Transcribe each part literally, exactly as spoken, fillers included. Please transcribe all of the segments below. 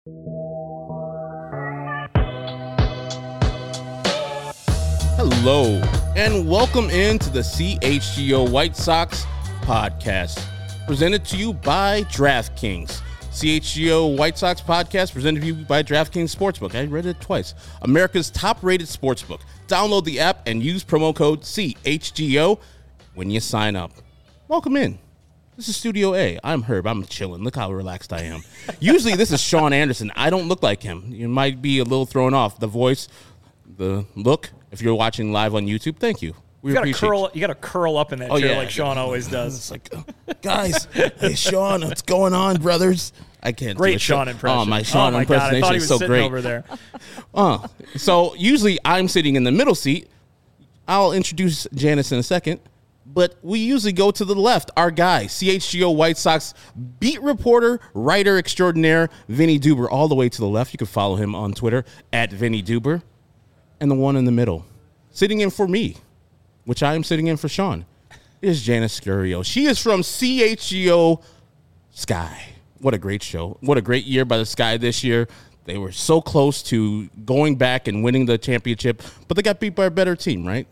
Hello, and welcome into the C H G O White Sox podcast, presented to you by DraftKings. C H G O White Sox podcast presented to you by DraftKings Sportsbook. I read it twice. America's top-rated sportsbook. Download the app and use promo code C H G O when you sign up. Welcome in. This is Studio A. I'm Herb. I'm chilling. Look how relaxed I am. Usually this is Sean Anderson. I don't look like him. You might be a little thrown off. The voice, the look. If you're watching live on YouTube, thank you. We you gotta appreciate curl. you. You gotta curl up in that oh, chair yeah. like Sean always does. It's like, uh, guys, hey Sean, what's going on, brothers? I can't. Great do it. Sean impression. Oh, my Sean oh my impersonation God, I thought he was is so sitting great over there. Uh, so usually I'm sitting in the middle seat. I'll introduce Janice in a second, but we usually go to the left. Our guy, C H G O White Sox beat reporter, writer extraordinaire, Vinny Duber, all the way to the left. You can follow him on Twitter at Vinny Duber, and the one in the middle, sitting in for me, which I am sitting in for Sean, is Janice Scurio. She is from C H G O Sky. What a great show. What a great year by the Sky this year. They were so close to going back and winning the championship, but they got beat by a better team, right?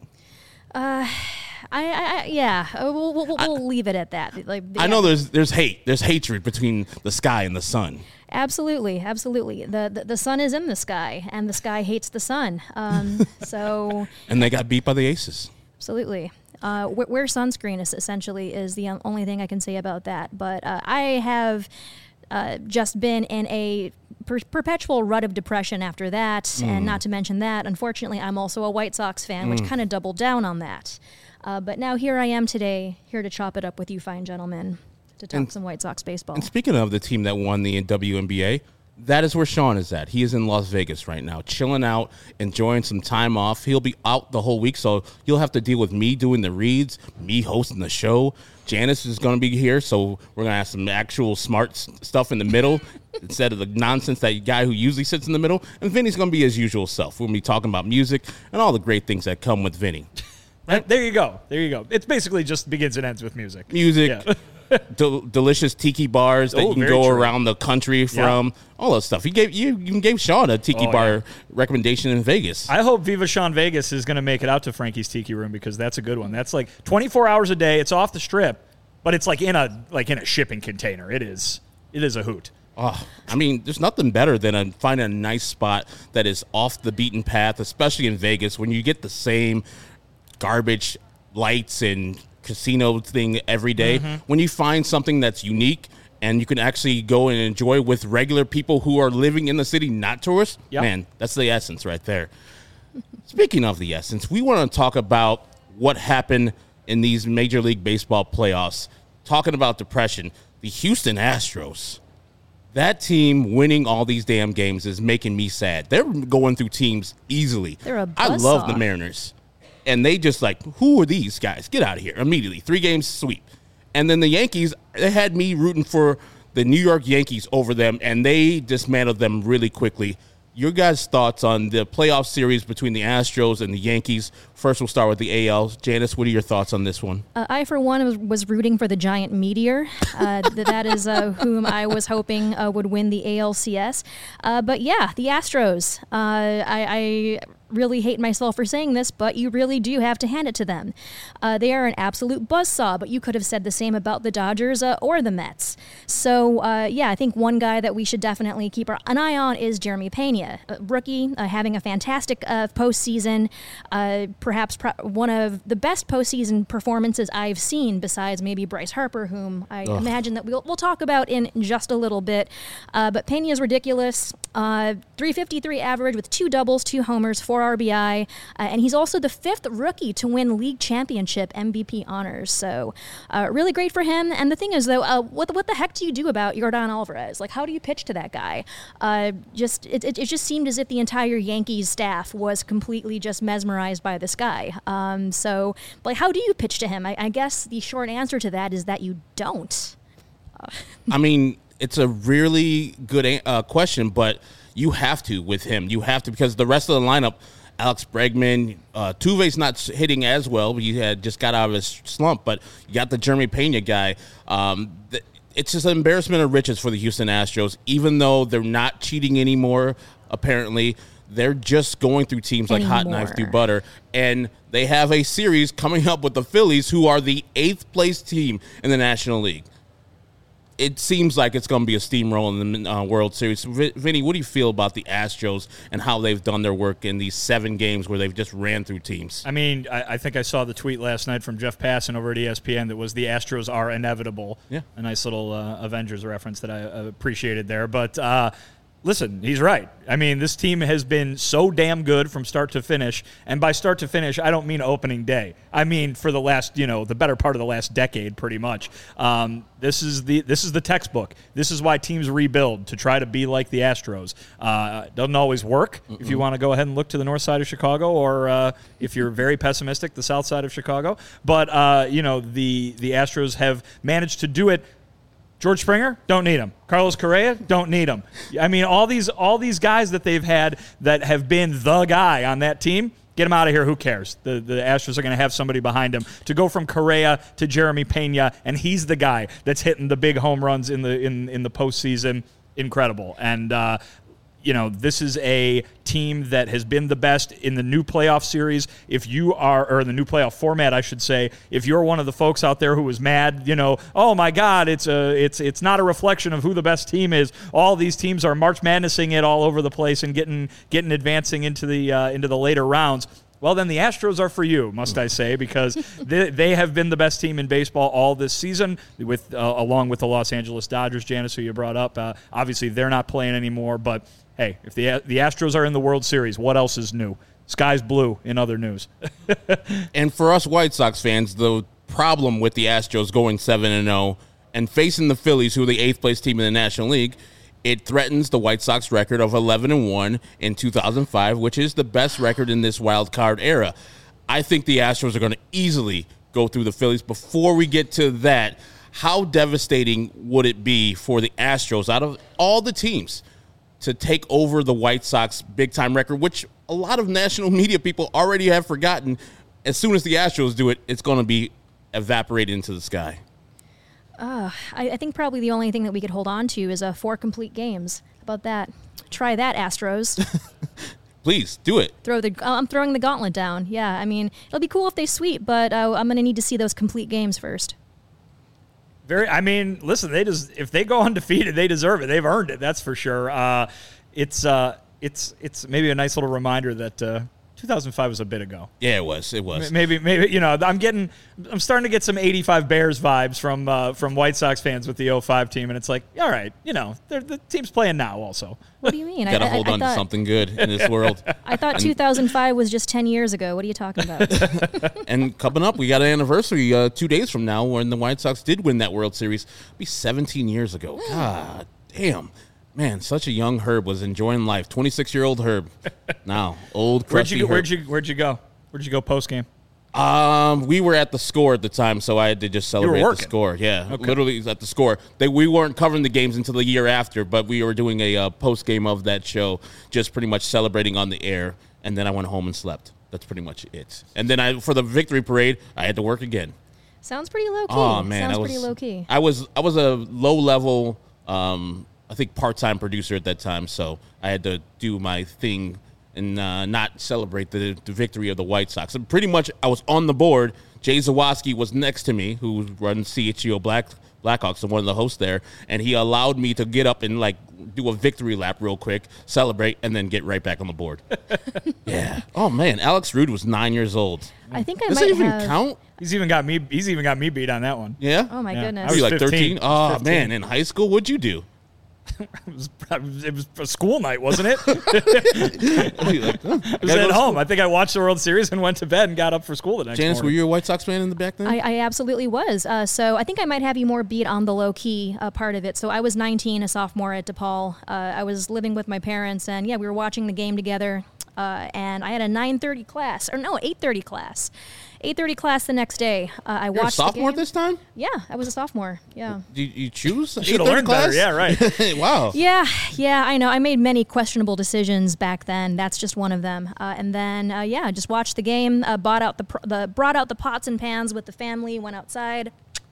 Uh, I, I yeah, we'll, we'll, we'll I, leave it at that. Like, I know there's there's hate. There's hatred between the Sky and the Sun. Absolutely, absolutely. The, the the sun is in the sky, and the sky hates the sun. Um, so and they got beat by the Aces. Absolutely. Uh, wear sunscreen is essentially is the only thing I can say about that. But uh, I have uh, just been in a per- perpetual rut of depression after that, mm. and not to mention that, unfortunately, I'm also a White Sox fan, mm. which kind of doubled down on that. Uh, but now here I am today, here to chop it up with you fine gentlemen, to talk and, some White Sox baseball. And speaking of the team that won the W N B A, that is where Sean is at. He is in Las Vegas right now, chilling out, enjoying some time off. He'll be out the whole week, so you'll have to deal with me doing the reads, me hosting the show. Janice is going to be here, so we're going to have some actual smart stuff in the middle instead of the nonsense that guy who usually sits in the middle. And Vinny's going to be his usual self. We're going to be talking about music and all the great things that come with Vinny. Right? There you go. There you go. It's basically just begins and ends with music. Music. Yeah. Del- delicious tiki bars that oh, you can go true. around the country from, yeah. all that stuff. He gave you you gave Sean a tiki oh, bar yeah. recommendation in Vegas. I hope Viva Sean Vegas is going to make it out to Frankie's Tiki Room, because that's a good one. That's like twenty-four hours a day. It's off the strip, but it's like in a like in a shipping container. It is it is a hoot. Oh, I mean, there's nothing better than a, finding a nice spot that is off the beaten path, especially in Vegas, when you get the same garbage lights and casino thing every day. Mm-hmm. When you find something that's unique and you can actually go and enjoy with regular people who are living in the city, not tourists, yep. man, that's the essence right there. Speaking of the essence, we want to talk about what happened in these Major League Baseball playoffs. Talking about depression, the Houston Astros, that team winning all these damn games is making me sad. They're going through teams easily. They're a I love buzzsaw. the Mariners. And they just like, who are these guys? Get out of here immediately. Three games sweep. And then the Yankees, they had me rooting for the New York Yankees over them, and they dismantled them really quickly. Your guys' thoughts on the playoff series between the Astros and the Yankees? First, we'll start with the A L. Janice, what are your thoughts on this one? Uh, I, for one, was, was rooting for the giant meteor. Uh, th- that is uh, whom I was hoping uh, would win the A L C S. Uh, but yeah, the Astros. Uh, I... I really hate myself for saying this, but you really do have to hand it to them. Uh, they are an absolute buzzsaw, but you could have said the same about the Dodgers uh, or the Mets. So, uh, yeah, I think one guy that we should definitely keep our, an eye on is Jeremy Pena, a rookie, uh, having a fantastic uh, postseason, uh, perhaps pro- one of the best postseason performances I've seen, besides maybe Bryce Harper, whom I Ugh. imagine that we'll, we'll talk about in just a little bit. Uh, but Pena is ridiculous. Uh, three fifty-three average with two doubles, two homers, four R B I, uh, and he's also the fifth rookie to win league championship M V P honors. So, uh, really great for him. And the thing is, though, uh, what what the heck do you do about Yordan Alvarez? Like, how do you pitch to that guy? Uh, just it, it it just seemed as if the entire Yankees staff was completely just mesmerized by this guy. Um, so, like, how do you pitch to him? I, I guess the short answer to that is that you don't. Uh. I mean, it's a really good uh, question, but you have to with him. You have to, because the rest of the lineup, Alex Bregman, uh, Tuve's not hitting as well. He had just got out of his slump, but you got the Jeremy Pena guy. Um, th- it's just an embarrassment of riches for the Houston Astros, even though they're not cheating anymore, apparently. They're just going through teams like Anymore. hot knife through butter, and they have a series coming up with the Phillies, who are the eighth place team in the National League. It seems like it's going to be a steamroll in the uh, World Series. V- Vinny, what do you feel about the Astros and how they've done their work in these seven games where they've just ran through teams? I mean, I, I think I saw the tweet last night from Jeff Passan over at E S P N that was the Astros are inevitable. Yeah. A nice little uh, Avengers reference that I uh, appreciated there. But uh, listen, he's right. I mean, this team has been so damn good from start to finish. And by start to finish, I don't mean opening day. I mean for the last, you know, the better part of the last decade, pretty much. Um, this is the this is the textbook. This is why teams rebuild, to try to be like the Astros. Uh, it doesn't always work. Mm-mm. If you want to go ahead and look to the north side of Chicago, or uh, if you're very pessimistic, the south side of Chicago. But, uh, you know, the, the Astros have managed to do it. George Springer, don't need him. Carlos Correa, don't need him. I mean, all these all these guys that they've had that have been the guy on that team, get him out of here. Who cares? The the Astros are going to have somebody behind him. To go from Correa to Jeremy Pena, and he's the guy that's hitting the big home runs in the in in the postseason. Incredible. And uh, you know, this is a team that has been the best in the new playoff series. If you are, or in the new playoff format, I should say, if you're one of the folks out there who was mad, you know, oh my God, it's a, it's, it's not a reflection of who the best team is. All these teams are March Madnessing it all over the place and getting, getting advancing into the, uh, into the later rounds. Well, then the Astros are for you, must I say, because they, they have been the best team in baseball all this season, with uh, along with the Los Angeles Dodgers, Janice, who you brought up. Uh, obviously, they're not playing anymore, but hey, if the the Astros are in the World Series, what else is new? Sky's blue in other news. And for us White Sox fans, the problem with the Astros going seven and oh and facing the Phillies, who are the eighth place team in the National League, it threatens the White Sox record of eleven and one in two thousand five, which is the best record in this wild card era. I think the Astros are going to easily go through the Phillies. Before we get to that, how devastating would it be for the Astros, out of all the teams, to take over the White Sox big-time record, which a lot of national media people already have forgotten? As soon as the Astros do it, it's going to be evaporated into the sky. Uh, I, I think probably the only thing that we could hold on to is uh, four complete games. How about that? Try that, Astros. Please, do it. Throw the. I'm throwing the gauntlet down. Yeah, I mean, it'll be cool if they sweep, but uh, I'm going to need to see those complete games first. Very. I mean, listen, they just if they go undefeated, they deserve it. They've earned it. That's for sure. Uh, it's uh, it's it's maybe a nice little reminder that uh, two thousand five was a bit ago. Yeah, it was. It was. Maybe, maybe you know, I'm getting, I'm starting to get some eighty-five Bears vibes from uh, from White Sox fans with the oh five team, and it's like, all right, you know, the team's playing now. Also, what do you mean? Got to I, hold I, on I thought, to something good in this world. I thought two thousand five was just ten years ago. What are you talking about? And coming up, we got an anniversary uh, two days from now when the White Sox did win that World Series. It'll be seventeen years ago. God damn. Man, such a young Herb was enjoying life. twenty-six-year-old Herb. Now, old crusty where'd you, Herb. where'd you Where'd you go? Where'd you go post game? Um, we were at the Score at the time, so I had to just celebrate the working. Score. Yeah, Okay. literally at the Score. They we weren't covering the games until the year after, but we were doing a uh, post game of that show, just pretty much celebrating on the air. And then I went home and slept. That's pretty much it. And then I for the victory parade, I had to work again. Sounds pretty low key. Oh man, Sounds I was, pretty low key. I was I was a low level, um, I think part time producer at that time, so I had to do my thing and uh, not celebrate the, the victory of the White Sox. And pretty much, I was on the board. Jay Zawaski was next to me, who runs C H G O Black Blackhawks and one of the hosts there, and he allowed me to get up and like do a victory lap real quick, celebrate, and then get right back on the board. Yeah. Oh man, Alex Rude was nine years old. I think I Does might it even have. count? He's even got me. He's even got me beat on that one. Yeah. Oh my Yeah. goodness. Were you like fifteen. thirteen? Oh fifteen. man, in high school, what'd you do? It was, it was a school night, wasn't it? Like, huh, I was at home. I think I watched the World Series and went to bed and got up for school the next Janice, were morning. you a White Sox fan in the back then? I, I absolutely was. Uh, so I think I might have you more beat on the low key uh, part of it. So I was nineteen, a sophomore at DePaul. Uh, I was living with my parents, and yeah, we were watching the game together. Uh, and I had a nine thirty class, or no, eight thirty class. eight thirty class the next day. Uh, I You're watched a sophomore the game. this time? Yeah, I was a sophomore. Yeah. Did you choose? Should have learned better. Yeah, right. Wow. Yeah, yeah, I know. I made many questionable decisions back then. That's just one of them. Uh, and then, uh, yeah, just watched the game. Uh, bought out the, pr- the brought out the pots and pans with the family. Went outside.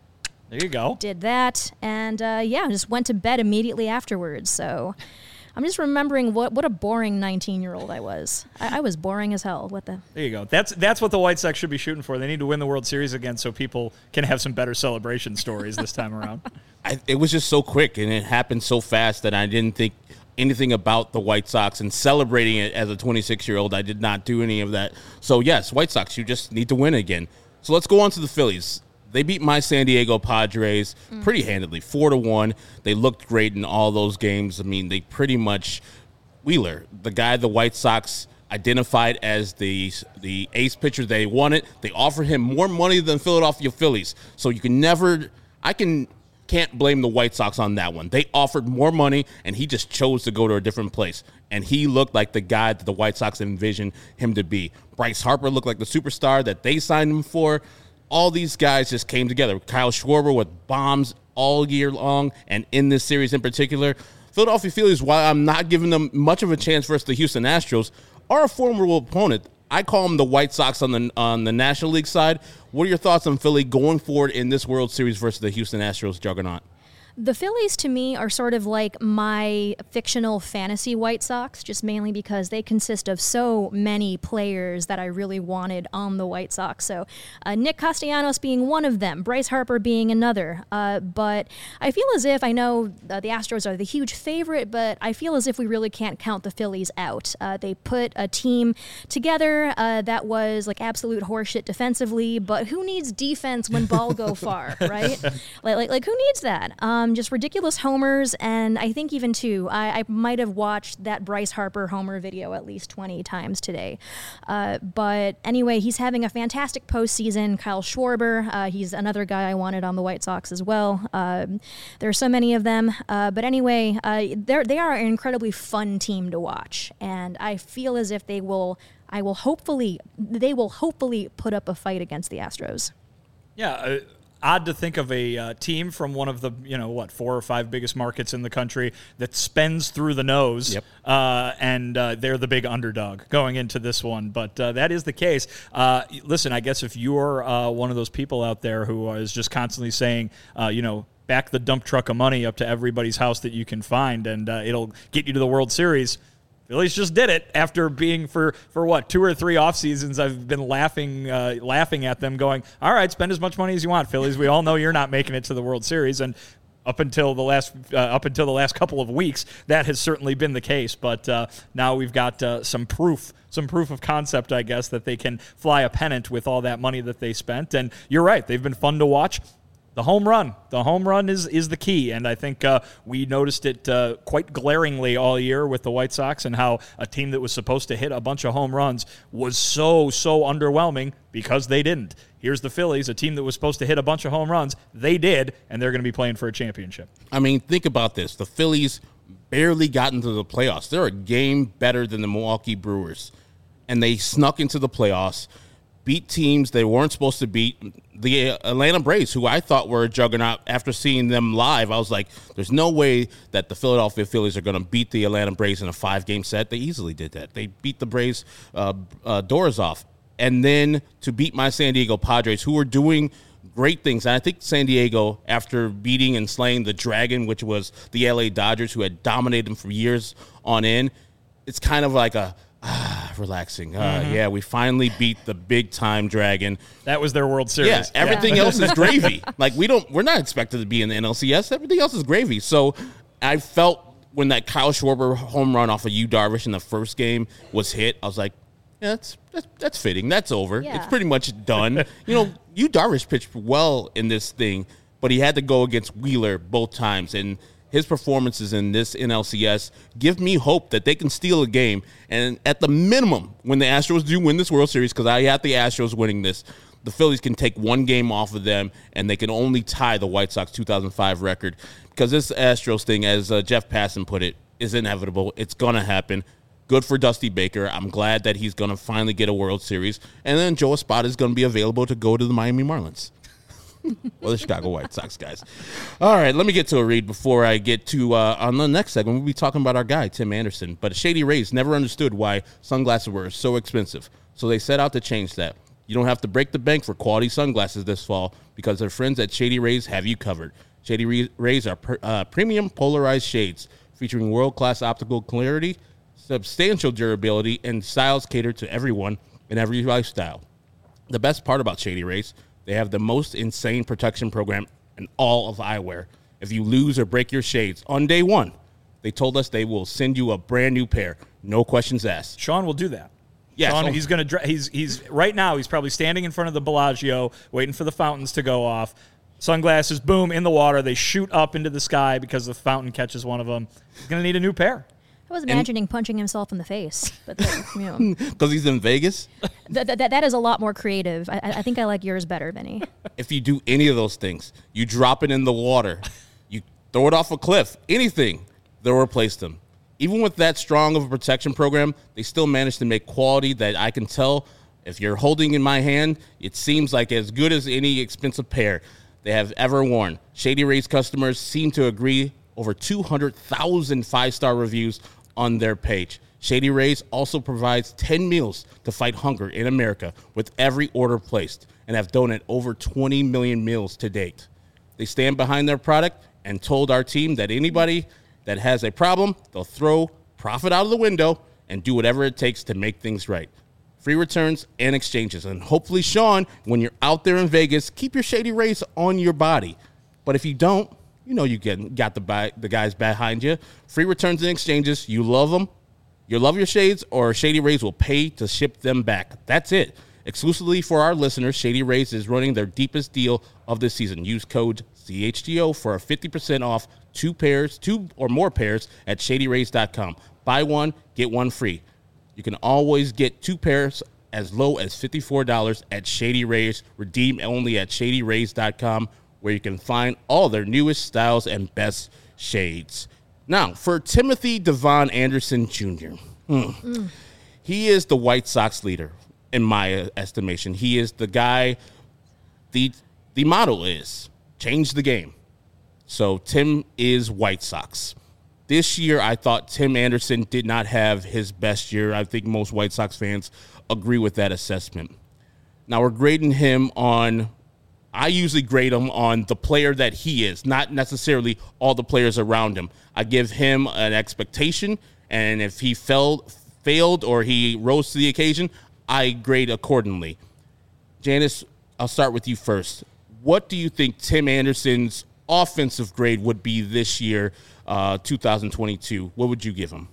There you go. Did that, and uh, yeah, just went to bed immediately afterwards. So I'm just remembering what, what a boring nineteen-year-old I was. I, I was boring as hell. What the? There you go. That's that's what the White Sox should be shooting for. They need to win the World Series again so people can have some better celebration stories this time around. I, it was just so quick, and it happened so fast that I didn't think anything about the White Sox, and celebrating it as a twenty-six-year-old, I did not do any of that. So, yes, White Sox, you just need to win again. So let's go on to the Phillies. They beat my San Diego Padres mm. pretty handedly, four to one. They looked great in all those games. I mean, they pretty much Wheeler, the guy the White Sox identified as the the ace pitcher they wanted. They offered him more money than Philadelphia Phillies. So you can never I can can't blame the White Sox on that one. They offered more money, and he just chose to go to a different place. And he looked like the guy that the White Sox envisioned him to be. Bryce Harper looked like the superstar that they signed him for. All these guys just came together. Kyle Schwarber with bombs all year long, and in this series in particular. Philadelphia Phillies, while I'm not giving them much of a chance versus the Houston Astros, are a formidable opponent. I call them the White Sox on the on the National League side. What are your thoughts on Philly going forward in this World Series versus the Houston Astros juggernaut? The Phillies, to me, are sort of like my fictional fantasy White Sox, just mainly because they consist of so many players that I really wanted on the White Sox. So uh, Nick Castellanos being one of them, Bryce Harper being another. Uh, but I feel as if, I know uh, the Astros are the huge favorite, but I feel as if we really can't count the Phillies out. Uh, they put a team together uh, that was like absolute horseshit defensively, but who needs defense when ball go far, right? Like, like, like who needs that? Um, Just ridiculous homers, and I think even too, I, I might have watched that Bryce Harper homer video at least twenty times today. Uh, but anyway, he's having a fantastic postseason. Kyle Schwarber, uh, he's another guy I wanted on the White Sox as well. Uh, there are so many of them, uh, but anyway, uh, they're they are an incredibly fun team to watch, and I feel as if they will. I will hopefully they will hopefully put up a fight against the Astros. Yeah. Uh- Odd to think of a uh, team from one of the, you know, what, four or five biggest markets in the country that spends through the nose, yep. uh, and uh, they're the big underdog going into this one. But uh, that is the case. Uh, listen, I guess if you're uh, one of those people out there who is just constantly saying, uh, you know, back the dump truck of money up to everybody's house that you can find, and uh, it'll get you to the World Series, Phillies just did it after being for, for what, two or three off seasons. I've been laughing uh, laughing at them going, all right, spend as much money as you want, Phillies. We all know you're not making it to the World Series. And up until the last uh, up until the last couple of weeks, that has certainly been the case. But uh, now we've got uh, some proof, some proof of concept, I guess, that they can fly a pennant with all that money that they spent. And you're right, they've been fun to watch. The home run. The home run is, is the key, and I think uh, we noticed it uh, quite glaringly all year with the White Sox and how a team that was supposed to hit a bunch of home runs was so, so underwhelming because they didn't. Here's the Phillies, a team that was supposed to hit a bunch of home runs. They did, and they're going to be playing for a championship. I mean, think about this. The Phillies barely got into the playoffs. They're a game better than the Milwaukee Brewers, and they snuck into the playoffs, beat teams they weren't supposed to beat. The Atlanta Braves, who I thought were a juggernaut, after seeing them live, I was like, there's no way that the Philadelphia Phillies are going to beat the Atlanta Braves in a five-game set. They easily did that. They beat the Braves uh, uh, doors off. And then to beat my San Diego Padres, who were doing great things. And I think San Diego, after beating and slaying the Dragon, which was the L A Dodgers, who had dominated them for years on end, it's kind of like a, Ah, relaxing. Uh, mm-hmm. Yeah, we finally beat the big-time Dragon. That was their World Series. Yeah, everything yeah. else is gravy. Like, we don't, we're not expected to be in the N L C S. Everything else is gravy. So I felt when that Kyle Schwarber home run off of Yu Darvish in the first game was hit, I was like, yeah, that's that's, that's fitting. That's over. Yeah. It's pretty much done. You know, Yu Darvish pitched well in this thing, but he had to go against Wheeler both times, and his performances in this N L C S give me hope that they can steal a game. And at the minimum, when the Astros do win this World Series, because I have the Astros winning this, the Phillies can take one game off of them, and they can only tie the White Sox two thousand five record. Because this Astros thing, as uh, Jeff Passan put it, is inevitable. It's going to happen. Good for Dusty Baker. I'm glad that he's going to finally get a World Series. And then Joe Espada is going to be available to go to the Miami Marlins. Well, the Chicago White Sox, guys. All right, let me get to a read before I get to, uh, on the next segment, we'll be talking about our guy, Tim Anderson. But Shady Rays never understood why sunglasses were so expensive, so they set out to change that. You don't have to break the bank for quality sunglasses this fall because their friends at Shady Rays have you covered. Shady Rays are per, uh, premium polarized shades featuring world-class optical clarity, substantial durability, and styles catered to everyone in every lifestyle. The best part about Shady Rays, they have the most insane protection program in all of eyewear. If you lose or break your shades on day one, they told us they will send you a brand new pair. No questions asked. Sean will do that. Yes. Sean, he's going to. He's he's right now. He's probably standing in front of the Bellagio, waiting for the fountains to go off. Sunglasses, boom, in the water. They shoot up into the sky because the fountain catches one of them. He's going to need a new pair. I was imagining and punching himself in the face, but then, you know, because he's in Vegas. That, that that is a lot more creative. I, I think I like yours better, Vinny. If you do any of those things, you drop it in the water, you throw it off a cliff, anything, they'll replace them. Even with that strong of a protection program, they still manage to make quality that I can tell if you're holding in my hand, it seems like as good as any expensive pair they have ever worn. Shady Rays customers seem to agree. Over two hundred thousand five-star reviews on their page. Shady Rays also provides ten meals to fight hunger in America with every order placed and have donated over twenty million meals to date. They stand behind their product and told our team that anybody that has a problem, they'll throw profit out of the window and do whatever it takes to make things right. Free returns and exchanges. And hopefully, Sean, when you're out there in Vegas, keep your Shady Rays on your body. But if you don't, you know you get, got the, buy, the guys behind you. Free returns and exchanges. You love them. You love your shades, or Shady Rays will pay to ship them back. That's it. Exclusively for our listeners, Shady Rays is running their deepest deal of the season. Use code C H G O for a fifty percent off two pairs, two or more pairs at shady rays dot com. Buy one, get one free. You can always get two pairs as low as fifty-four dollars at Shady Rays. Redeem only at shady rays dot com, where you can find all their newest styles and best shades. Now, for Timothy Devon Anderson Junior Hmm, mm. He is the White Sox leader, in my estimation. He is the guy, the the motto is, change the game. So Tim is White Sox. This year, I thought Tim Anderson did not have his best year. I think most White Sox fans agree with that assessment. Now, we're grading him on, I usually grade him on the player that he is, not necessarily all the players around him. I give him an expectation, and if he failed, failed or he rose to the occasion, I grade accordingly. Janice, I'll start with you first. What do you think Tim Anderson's offensive grade would be this year, uh, two thousand twenty-two? What would you give him?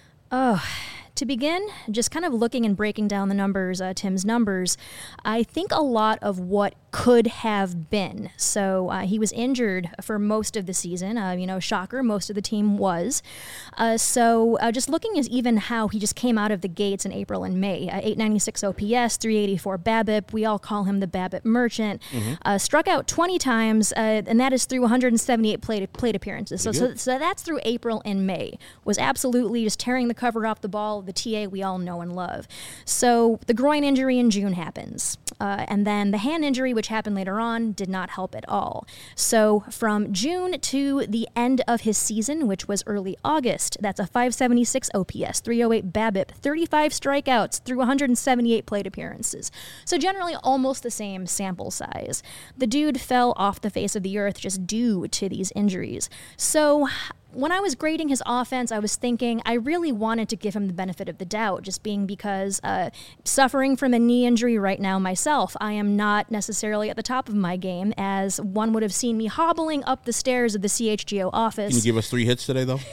Oh, to begin, just kind of looking and breaking down the numbers, uh, Tim's numbers, I think a lot of what could have been. So uh, he was injured for most of the season. Uh, you know, shocker, most of the team was. Uh, so uh, just looking at even how he just came out of the gates in April and May. Uh, eight ninety-six O P S, three eighty-four BABIP. We all call him the BABIP merchant. Mm-hmm. Uh, struck out twenty times, uh, and that is through one hundred seventy-eight plate, plate appearances. So, so, so that's through April and May. Was absolutely just tearing the cover off the ball, the T A we all know and love. So the groin injury in June happens. Uh, and then the hand injury, which happened later on, did not help at all. So from June to the end of his season, which was early August, that's a five seventy-six O P S, three oh eight BABIP, thirty-five strikeouts through one hundred seventy-eight plate appearances. So generally almost the same sample size. The dude fell off the face of the earth just due to these injuries. So when I was grading his offense, I was thinking I really wanted to give him the benefit of the doubt, just being because uh, suffering from a knee injury right now myself, I am not necessarily at the top of my game, as one would have seen me hobbling up the stairs of the C H G O office. Can you give us three hits today, though?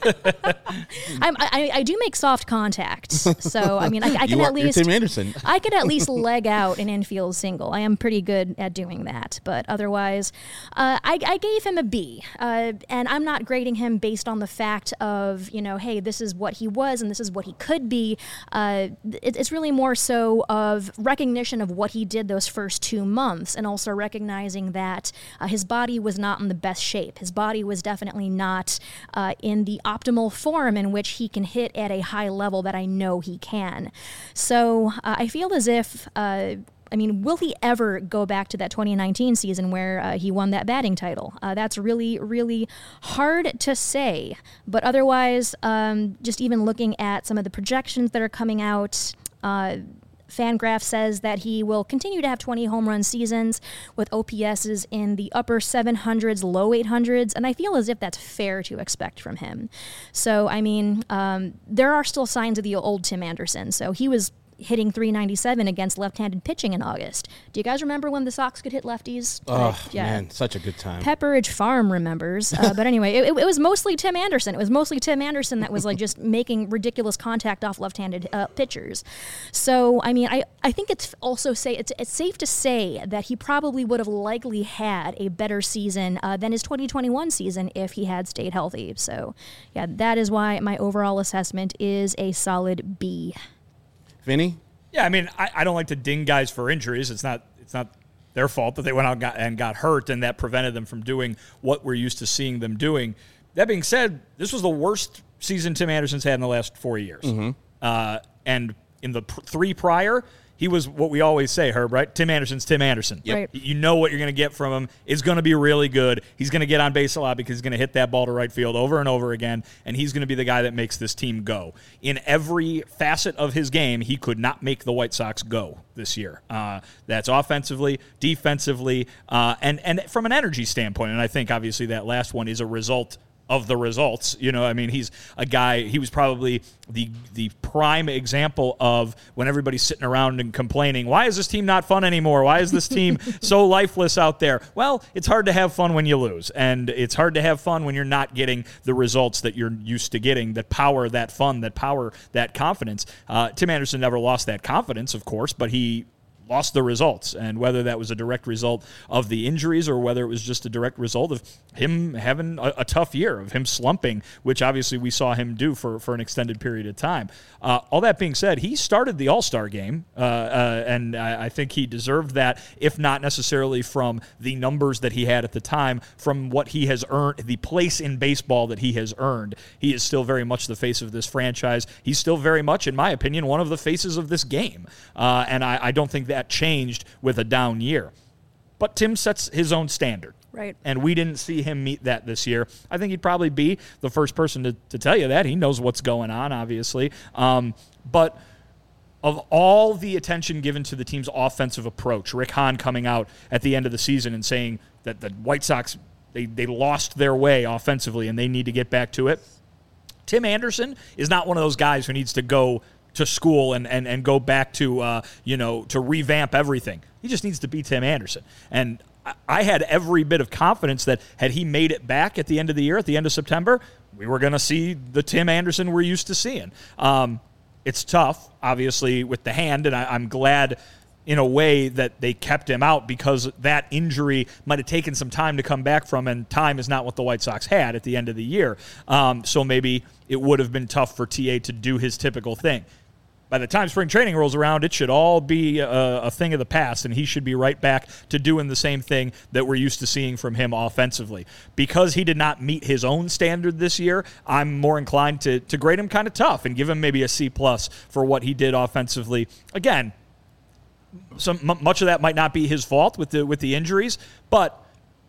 I'm, I, I do make soft contact, so I mean I, I can you are, at least you're Tim Anderson. I could at least leg out an infield single. I am pretty good at doing that, but otherwise, uh, I, I gave him a B, uh, and I'm not grading him based on the fact of, you know, hey, this is what he was and this is what he could be. Uh, it, it's really more so of recognition of what he did those first two months, and also recognizing that uh, his body was not in the best shape. His body was definitely not uh, in the optimal form in which he can hit at a high level that I know he can. So uh, I feel as if, uh, I mean, will he ever go back to that twenty nineteen season where uh, he won that batting title? Uh, that's really, really hard to say. But otherwise, um, just even looking at some of the projections that are coming out, uh, Fangraph says that he will continue to have twenty home run seasons with O P S's in the upper seven hundreds, low eight hundreds, and I feel as if that's fair to expect from him. So, I mean, um, there are still signs of the old Tim Anderson. So he was hitting three ninety-seven against left-handed pitching in August. Do you guys remember when the Sox could hit lefties? Oh, like, yeah. man, such a good time. Pepperidge Farm remembers. Uh, but anyway, it, it, it was mostly Tim Anderson. It was mostly Tim Anderson that was like just making ridiculous contact off left-handed uh, pitchers. So, I mean, I, I think it's also say it's, it's safe to say that he probably would have likely had a better season uh, than his twenty twenty-one season if he had stayed healthy. So, yeah, that is why my overall assessment is a solid B. Vinny? Yeah, I mean, I, I don't like to ding guys for injuries. It's not it's not their fault that they went out and got, and got hurt, and that prevented them from doing what we're used to seeing them doing. That being said, this was the worst season Tim Anderson's had in the last four years. Mm-hmm. Uh, and in the pr- three prior, he was what we always say, Herb, right? Tim Anderson's Tim Anderson. Yep. Right. You know what you're going to get from him. It's going to be really good. He's going to get on base a lot because he's going to hit that ball to right field over and over again, and he's going to be the guy that makes this team go. In every facet of his game, he could not make the White Sox go this year. Uh, that's offensively, defensively, uh, and, and from an energy standpoint, and I think obviously that last one is a result of the results. You know, I mean, he's a guy, he was probably the the prime example of when everybody's sitting around and complaining, why is this team not fun anymore? Why is this team so lifeless out there? Well, it's hard to have fun when you lose, and it's hard to have fun when you're not getting the results that you're used to getting, that power that fun, that power that confidence. Uh, Tim Anderson never lost that confidence, of course, but he lost the results, and whether that was a direct result of the injuries or whether it was just a direct result of him having a, a tough year, of him slumping, which obviously we saw him do for, for an extended period of time. Uh, all that being said, he started the All-Star game, uh, uh, and I, I think he deserved that, if not necessarily from the numbers that he had at the time, from what he has earned, the place in baseball that he has earned. He is still very much the face of this franchise. He's still very much, in my opinion, one of the faces of this game, uh, and I, I don't think that That changed with a down year. But Tim sets his own standard. Right. And we didn't see him meet that this year. I think he'd probably be the first person to, to tell you that. He knows what's going on, obviously. Um, but of all the attention given to the team's offensive approach, Rick Hahn coming out at the end of the season and saying that the White Sox, they, they lost their way offensively and they need to get back to it. Tim Anderson is not one of those guys who needs to go to school and, and, and go back to, uh, you know, to revamp everything. He just needs to be Tim Anderson. And I, I had every bit of confidence that had he made it back at the end of the year, at the end of September, we were going to see the Tim Anderson we're used to seeing. Um, it's tough, obviously, with the hand, and I, I'm glad in a way that they kept him out because that injury might have taken some time to come back from, and time is not what the White Sox had at the end of the year. Um, so maybe it would have been tough for T A to do his typical thing. By the time spring training rolls around, it should all be a, a thing of the past, and he should be right back to doing the same thing that we're used to seeing from him offensively. Because he did not meet his own standard this year, I'm more inclined to, to grade him kind of tough and give him maybe a C plus for what he did offensively. Again, some m- much of that might not be his fault with the with the injuries, but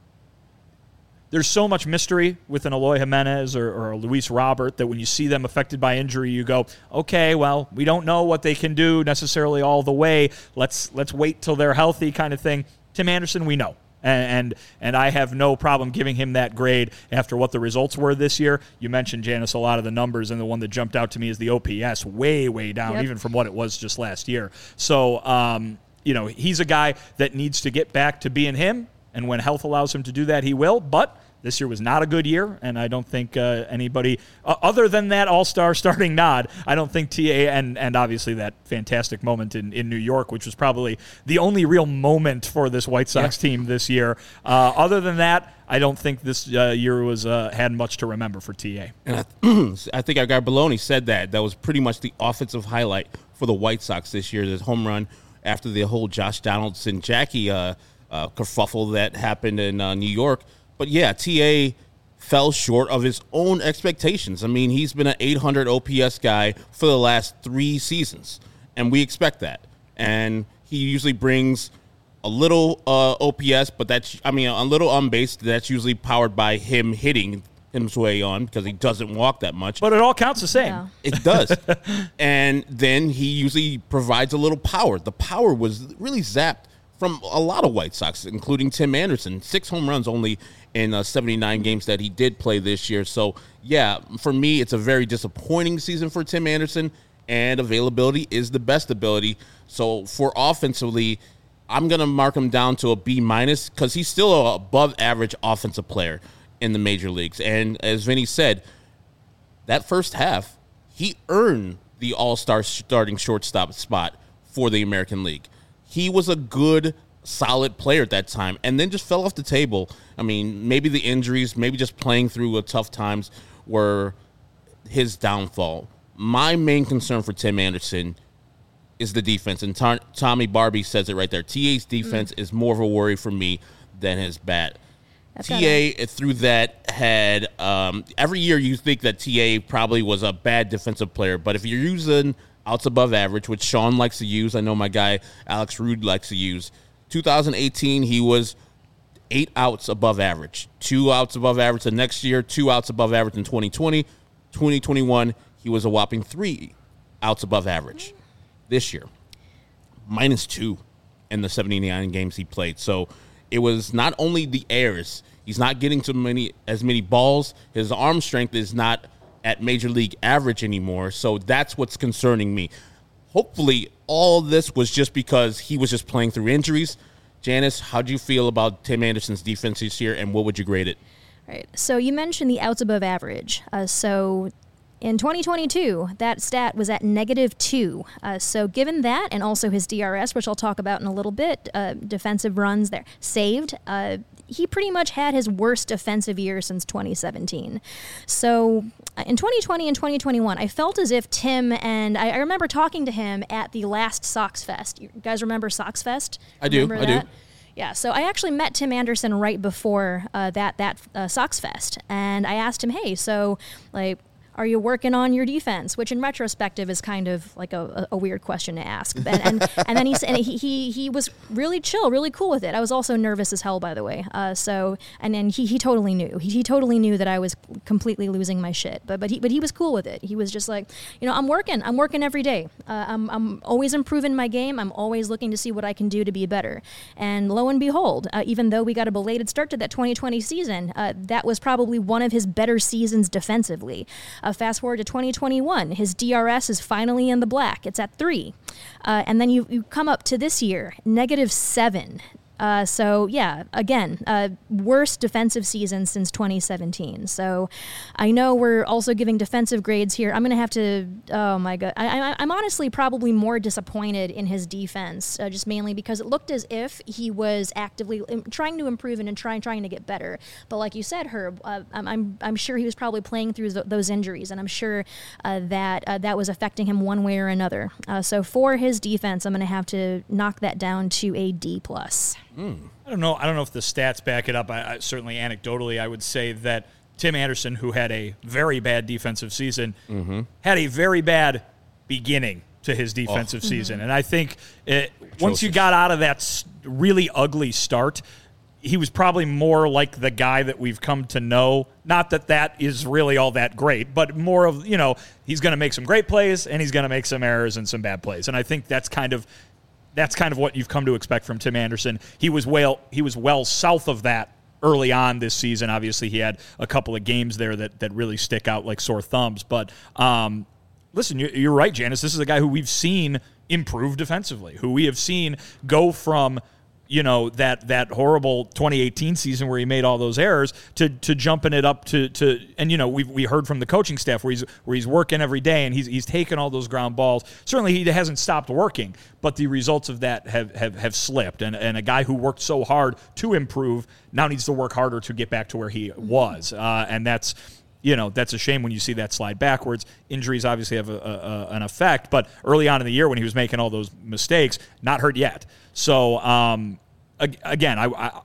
there's so much mystery with an Eloy Jimenez or, or a Luis Robert that when you see them affected by injury, you go, okay, well, we don't know what they can do necessarily all the way. Let's let's wait till they're healthy kind of thing. Tim Anderson, we know. And, and and I have no problem giving him that grade after what the results were this year. You mentioned, Janice, a lot of the numbers, and the one that jumped out to me is the O P S, way, way down, yep. even from what it was just last year. So, um, you know, he's a guy that needs to get back to being him. And when health allows him to do that, he will. But this year was not a good year, and I don't think uh, anybody, uh, other than that all-star starting nod, I don't think T A, and, and obviously that fantastic moment in, in New York, which was probably the only real moment for this White Sox yeah. team this year. Uh, other than that, I don't think this uh, year was uh, had much to remember for T A. And I, th- I think our guy Baloney said that. That was pretty much the offensive highlight for the White Sox this year, this home run after the whole Josh Donaldson, Jackie uh, uh, kerfuffle that happened in uh, New York. But, yeah, T A fell short of his own expectations. I mean, he's been an eight hundred O P S guy for the last three seasons, and we expect that. And he usually brings a little uh, O P S, but that's, I mean, a little on base, that's usually powered by him hitting his way on because he doesn't walk that much. But it all counts the same. Yeah. It does. And then he usually provides a little power. The power was really zapped from a lot of White Sox, including Tim Anderson. Six home runs only in uh, seventy-nine games that he did play this year. So, yeah, for me, it's a very disappointing season for Tim Anderson, and availability is the best ability. So, for offensively, I'm going to mark him down to a B minus because he's still an above average offensive player in the major leagues. And as Vinny said, that first half, he earned the all-star starting shortstop spot for the American League. He was a good, solid player at that time and then just fell off the table. I mean, maybe the injuries, maybe just playing through a tough times were his downfall. My main concern for Tim Anderson is the defense, and Tom, Tommy Barbie says it right there. T A's defense mm. is more of a worry for me than his bat. That's T A through that had um, every year you think that T A probably was a bad defensive player, but if you're using outs above average, which Sean likes to use, I know my guy Alex Rude likes to use. two thousand eighteen, he was eight outs above average, two outs above average the next year, two outs above average in twenty twenty. twenty twenty-one, he was a whopping three outs above average. This year, minus two in the seventy-nine games he played. So it was not only the errors. He's not getting so many as many balls. His arm strength is not at major league average anymore. So that's what's concerning me. Hopefully, all this was just because he was just playing through injuries. Janice, how do you feel about Tim Anderson's defense this year, and what would you grade it? Right. So you mentioned the outs above average. Uh, so in twenty twenty-two, that stat was at negative two. Uh, so given that, and also his D R S, which I'll talk about in a little bit, uh, defensive runs there, saved, uh, he pretty much had his worst defensive year since twenty seventeen. So uh, in twenty twenty and twenty twenty-one, I felt as if Tim, and I, I remember talking to him at the last Sox Fest. You guys remember Sox Fest? I do, remember I that? do. Yeah, so I actually met Tim Anderson right before uh, that, that uh, Sox Fest, and I asked him, hey, so, like, are you working on your defense? Which, in retrospective, is kind of like a, a weird question to ask. And and, and then he said he, he he was really chill, really cool with it. I was also nervous as hell, by the way. Uh, so and then he, he totally knew. He, he totally knew that I was completely losing my shit. But but he but he was cool with it. He was just like, you know, I'm working. I'm working every day. Uh, I'm I'm always improving my game. I'm always looking to see what I can do to be better. And lo and behold, uh, even though we got a belated start to that twenty twenty season, uh, that was probably one of his better seasons defensively. Uh, fast forward to twenty twenty-one, his D R S is finally in the black. It's at three. Uh, and then you, you come up to this year, negative seven. Uh, so, yeah, again, uh, worst defensive season since twenty seventeen. So I know we're also giving defensive grades here. I'm going to have to, oh, my God. I, I, I'm honestly probably more disappointed in his defense, uh, just mainly because it looked as if he was actively trying to improve and trying trying to get better. But like you said, Herb, uh, I'm, I'm I'm sure he was probably playing through th- those injuries, and I'm sure uh, that uh, that was affecting him one way or another. Uh, so for his defense, I'm going to have to knock that down to a D plus. Mm. I don't know. I don't know if the stats back it up. I, I, certainly, anecdotally, I would say that Tim Anderson, who had a very bad defensive season, mm-hmm. had a very bad beginning to his defensive oh. season. Mm-hmm. And I think it, once you got out of that really ugly start, he was probably more like the guy that we've come to know. Not that that is really all that great, but more of, you know, he's going to make some great plays and he's going to make some errors and some bad plays. And I think that's kind of That's kind of what you've come to expect from Tim Anderson. He was well, he was well south of that early on this season. Obviously, he had a couple of games there that, that really stick out like sore thumbs. But um, listen, you're, you're right, Janice. This is a guy who we've seen improve defensively, who we have seen go from, you know, that that horrible twenty eighteen season where he made all those errors to to jumping it up to to and you know we we heard from the coaching staff where he's where he's working every day and he's he's taking all those ground balls. Certainly he hasn't stopped working, but the results of that have have, have slipped. And and a guy who worked so hard to improve now needs to work harder to get back to where he was. Uh, and that's you know, that's a shame when you see that slide backwards. Injuries obviously have a, a, an effect, but early on in the year when he was making all those mistakes, not hurt yet. So, um, again, I, I,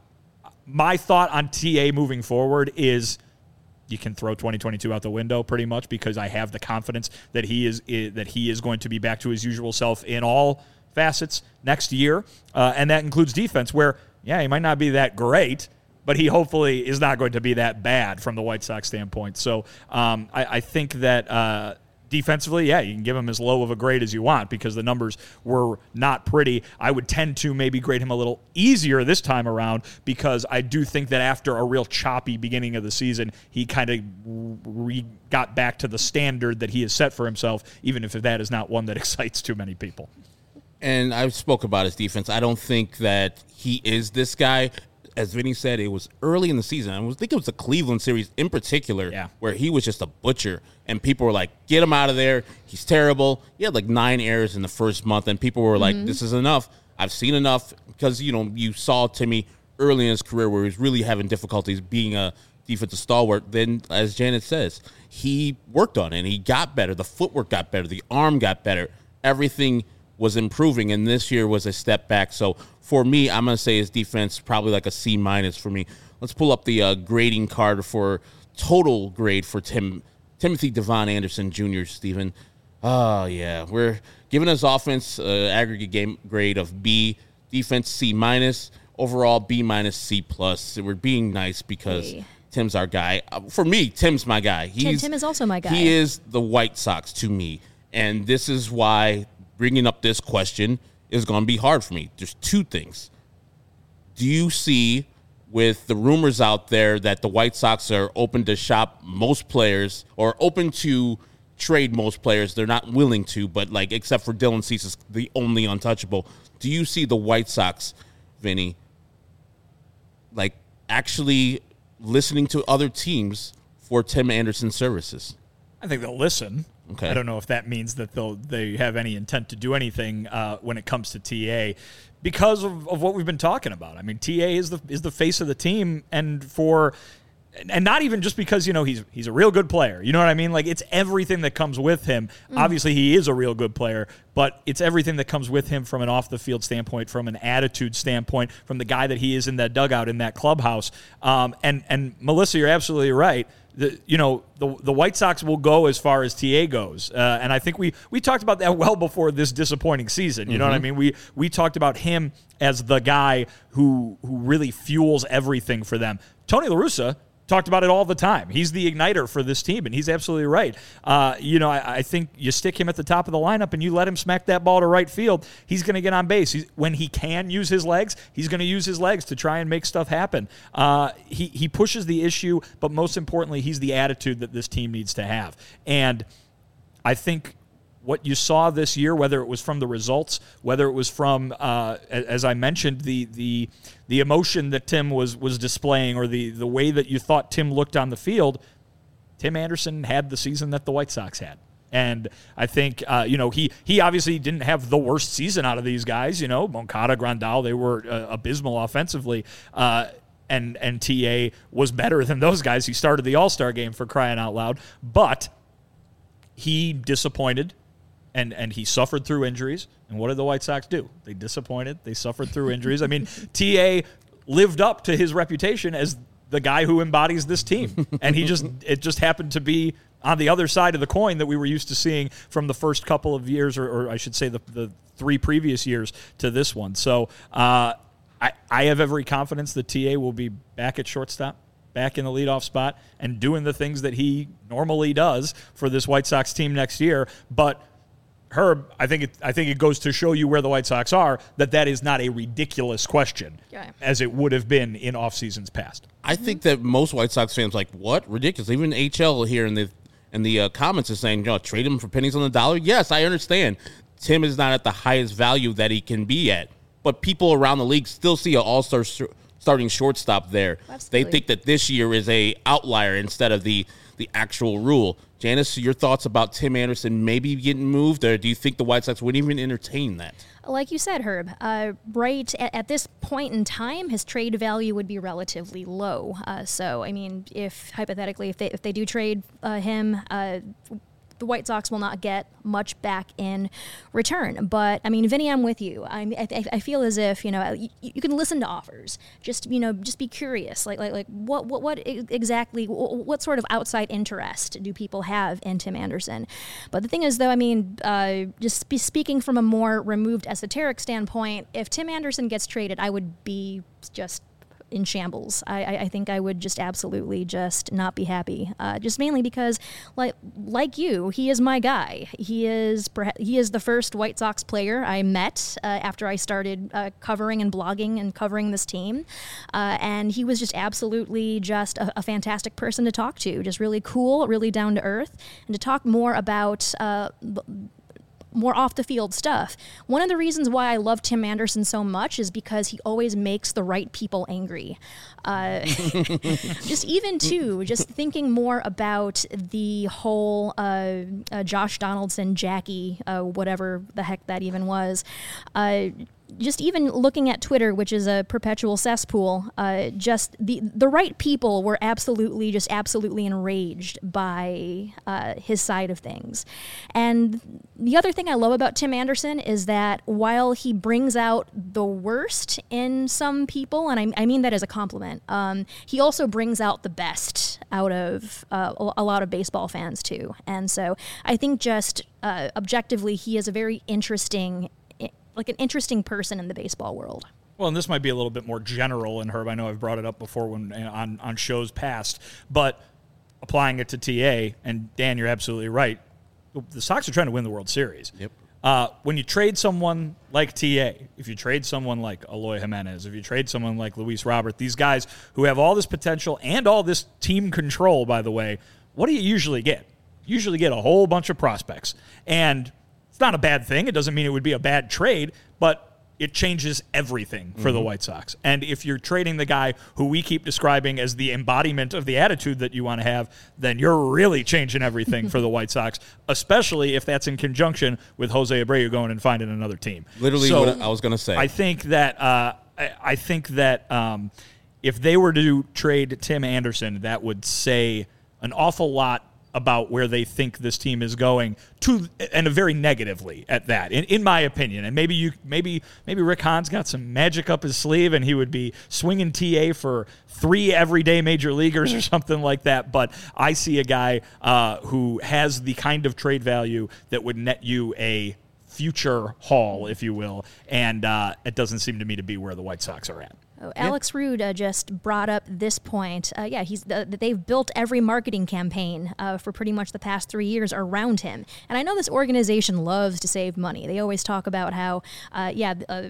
my thought on T A moving forward is you can throw twenty twenty-two out the window pretty much because I have the confidence that he is that he is going to be back to his usual self in all facets next year, uh, and that includes defense where, yeah, he might not be that great, but he hopefully is not going to be that bad from the White Sox standpoint. So um, I, I think that uh, defensively, yeah, you can give him as low of a grade as you want because the numbers were not pretty. I would tend to maybe grade him a little easier this time around because I do think that after a real choppy beginning of the season, he kind of re- got back to the standard that he has set for himself, even if that is not one that excites too many people. And I spoke about his defense. I don't think that he is this guy. As Vinny said, it was early in the season. I think it was the Cleveland series in particular yeah. where he was just a butcher. And people were like, get him out of there. He's terrible. He had like nine errors in the first month. And people were like, mm-hmm. this is enough. I've seen enough. Because, you know, you saw Timmy early in his career where he was really having difficulties being a defensive stalwart. Then, as Janet says, he worked on it. And he got better. The footwork got better. The arm got better. Everything was improving, and this year was a step back. So for me, I'm going to say his defense probably like a C minus for me. Let's pull up the uh, grading card for total grade for Tim Timothy Devon Anderson Junior, Stephen. Oh, yeah. We're giving his offense uh, aggregate game grade of B, defense C minus, overall B minus C plus. We're being nice because hey. Tim's our guy. Uh, for me, Tim's my guy. He's, Tim, Tim is also my guy. He is the White Sox to me, and this is why bringing up this question is going to be hard for me. There's two things. Do you see, with the rumors out there that the White Sox are open to shop most players or open to trade most players, they're not willing to, but like except for Dylan Cease is the only untouchable. Do you see the White Sox, Vinny, like actually listening to other teams for Tim Anderson's services? I think they'll listen. Okay. I don't know if that means that they'll they have any intent to do anything uh, when it comes to T A because of, of what we've been talking about. I mean, T A is the is the face of the team, and for and not even just because, you know, he's he's a real good player. You know what I mean? Like, it's everything that comes with him. Mm. Obviously, he is a real good player, but it's everything that comes with him from an off-the-field standpoint, from an attitude standpoint, from the guy that he is in that dugout, in that clubhouse. Um, and, and, Melissa, you're absolutely right. The, you know, the the White Sox will go as far as T A goes. Uh, and I think we we talked about that well before this disappointing season. You mm-hmm. know what I mean? We we talked about him as the guy who who really fuels everything for them. Tony La Russa talked about it all the time. He's the igniter for this team, and he's absolutely right. Uh, you know, I, I think you stick him at the top of the lineup and you let him smack that ball to right field, he's going to get on base. He's, when he can use his legs, he's going to use his legs to try and make stuff happen. Uh, he, he pushes the issue, but most importantly, he's the attitude that this team needs to have. And I think what you saw this year, whether it was from the results, whether it was from, uh, as I mentioned, the the the emotion that Tim was was displaying, or the the way that you thought Tim looked on the field, Tim Anderson had the season that the White Sox had. And I think, uh, you know, he he obviously didn't have the worst season out of these guys. You know, Moncada, Grandal, they were uh, abysmal offensively. Uh, and, and T A was better than those guys. He started the All-Star game, for crying out loud. But he disappointed. And and he suffered through injuries. And what did the White Sox do? They disappointed. They suffered through injuries. I mean, T A lived up to his reputation as the guy who embodies this team. And he just it just happened to be on the other side of the coin that we were used to seeing from the first couple of years, or, or I should say the, the three previous years to this one. So uh, I, I have every confidence that T A will be back at shortstop, back in the leadoff spot, and doing the things that he normally does for this White Sox team next year. But Herb, I think it, I think it goes to show you where the White Sox are, that that is not a ridiculous question, yeah. as it would have been in off seasons past. I think that most White Sox fans are like, what? Ridiculous. Even H L here in the in the uh, comments is saying, you know, trade him for pennies on the dollar. Yes, I understand. Tim is not at the highest value that he can be at, but people around the league still see an all-star sh- starting shortstop there. Absolutely. They think that this year is a outlier instead of the the actual rule. Janice, your thoughts about Tim Anderson maybe getting moved, or do you think the White Sox would even entertain that? Like you said, Herb, uh, right at, at this point in time, his trade value would be relatively low. Uh, so, I mean, if hypothetically, if they if they do trade uh, him, uh, the White Sox will not get much back in return. But, I mean, Vinny, I'm with you. I I, I feel as if, you know, you, you can listen to offers. Just, you know, just be curious. Like, like, like what, what, what exactly, what sort of outside interest do people have in Tim Anderson? But the thing is, though, I mean, uh, just be speaking from a more removed esoteric standpoint, if Tim Anderson gets traded, I would be just in shambles. I, I, I think I would just absolutely just not be happy. Uh, just mainly because, like like you, he is my guy. He is he is the first White Sox player I met uh, after I started uh, covering and blogging and covering this team, uh, and he was just absolutely just a, a fantastic person to talk to. Just really cool, really down to earth, and to talk more about. Uh, more off-the-field stuff. One of the reasons why I love Tim Anderson so much is because he always makes the right people angry. Uh, just even, too, just thinking more about the whole uh, uh, Josh Donaldson, Jackie, uh, whatever the heck that even was, uh, just even looking at Twitter, which is a perpetual cesspool, uh, just the the right people were absolutely, just absolutely enraged by uh, his side of things. And the other thing I love about Tim Anderson is that while he brings out the worst in some people, and I, I mean that as a compliment, um, he also brings out the best out of uh, a lot of baseball fans too. And so I think just uh, objectively, he is a very interesting like an interesting person in the baseball world. Well, and this might be a little bit more general, and Herb, I know I've brought it up before when on, on shows past, but applying it to T A, and Dan, you're absolutely right. The Sox are trying to win the World Series. Yep. Uh, when you trade someone like T A, if you trade someone like Eloy Jimenez, if you trade someone like Luis Robert, these guys who have all this potential and all this team control, by the way, what do you usually get? You usually get a whole bunch of prospects. And it's not a bad thing. It doesn't mean it would be a bad trade, but it changes everything for mm-hmm. the White Sox. And if you're trading the guy who we keep describing as the embodiment of the attitude that you want to have, then you're really changing everything for the White Sox, especially if that's in conjunction with Jose Abreu going and finding another team. Literally so what I was going to say. I think that uh, I, I think that um, if they were to trade Tim Anderson, that would say an awful lot about where they think this team is going, to and very negatively at that, in, in my opinion. And maybe you, maybe maybe Rick Hahn's got some magic up his sleeve, and he would be swinging T A for three everyday major leaguers or something like that. But I see a guy uh, who has the kind of trade value that would net you a future haul, if you will, and uh, it doesn't seem to me to be where the White Sox are at. Oh, Alex yeah. Rude uh, just brought up this point. Uh, yeah, he's uh, they've built every marketing campaign uh, for pretty much the past three years around him. And I know this organization loves to save money. They always talk about how, uh, yeah, uh,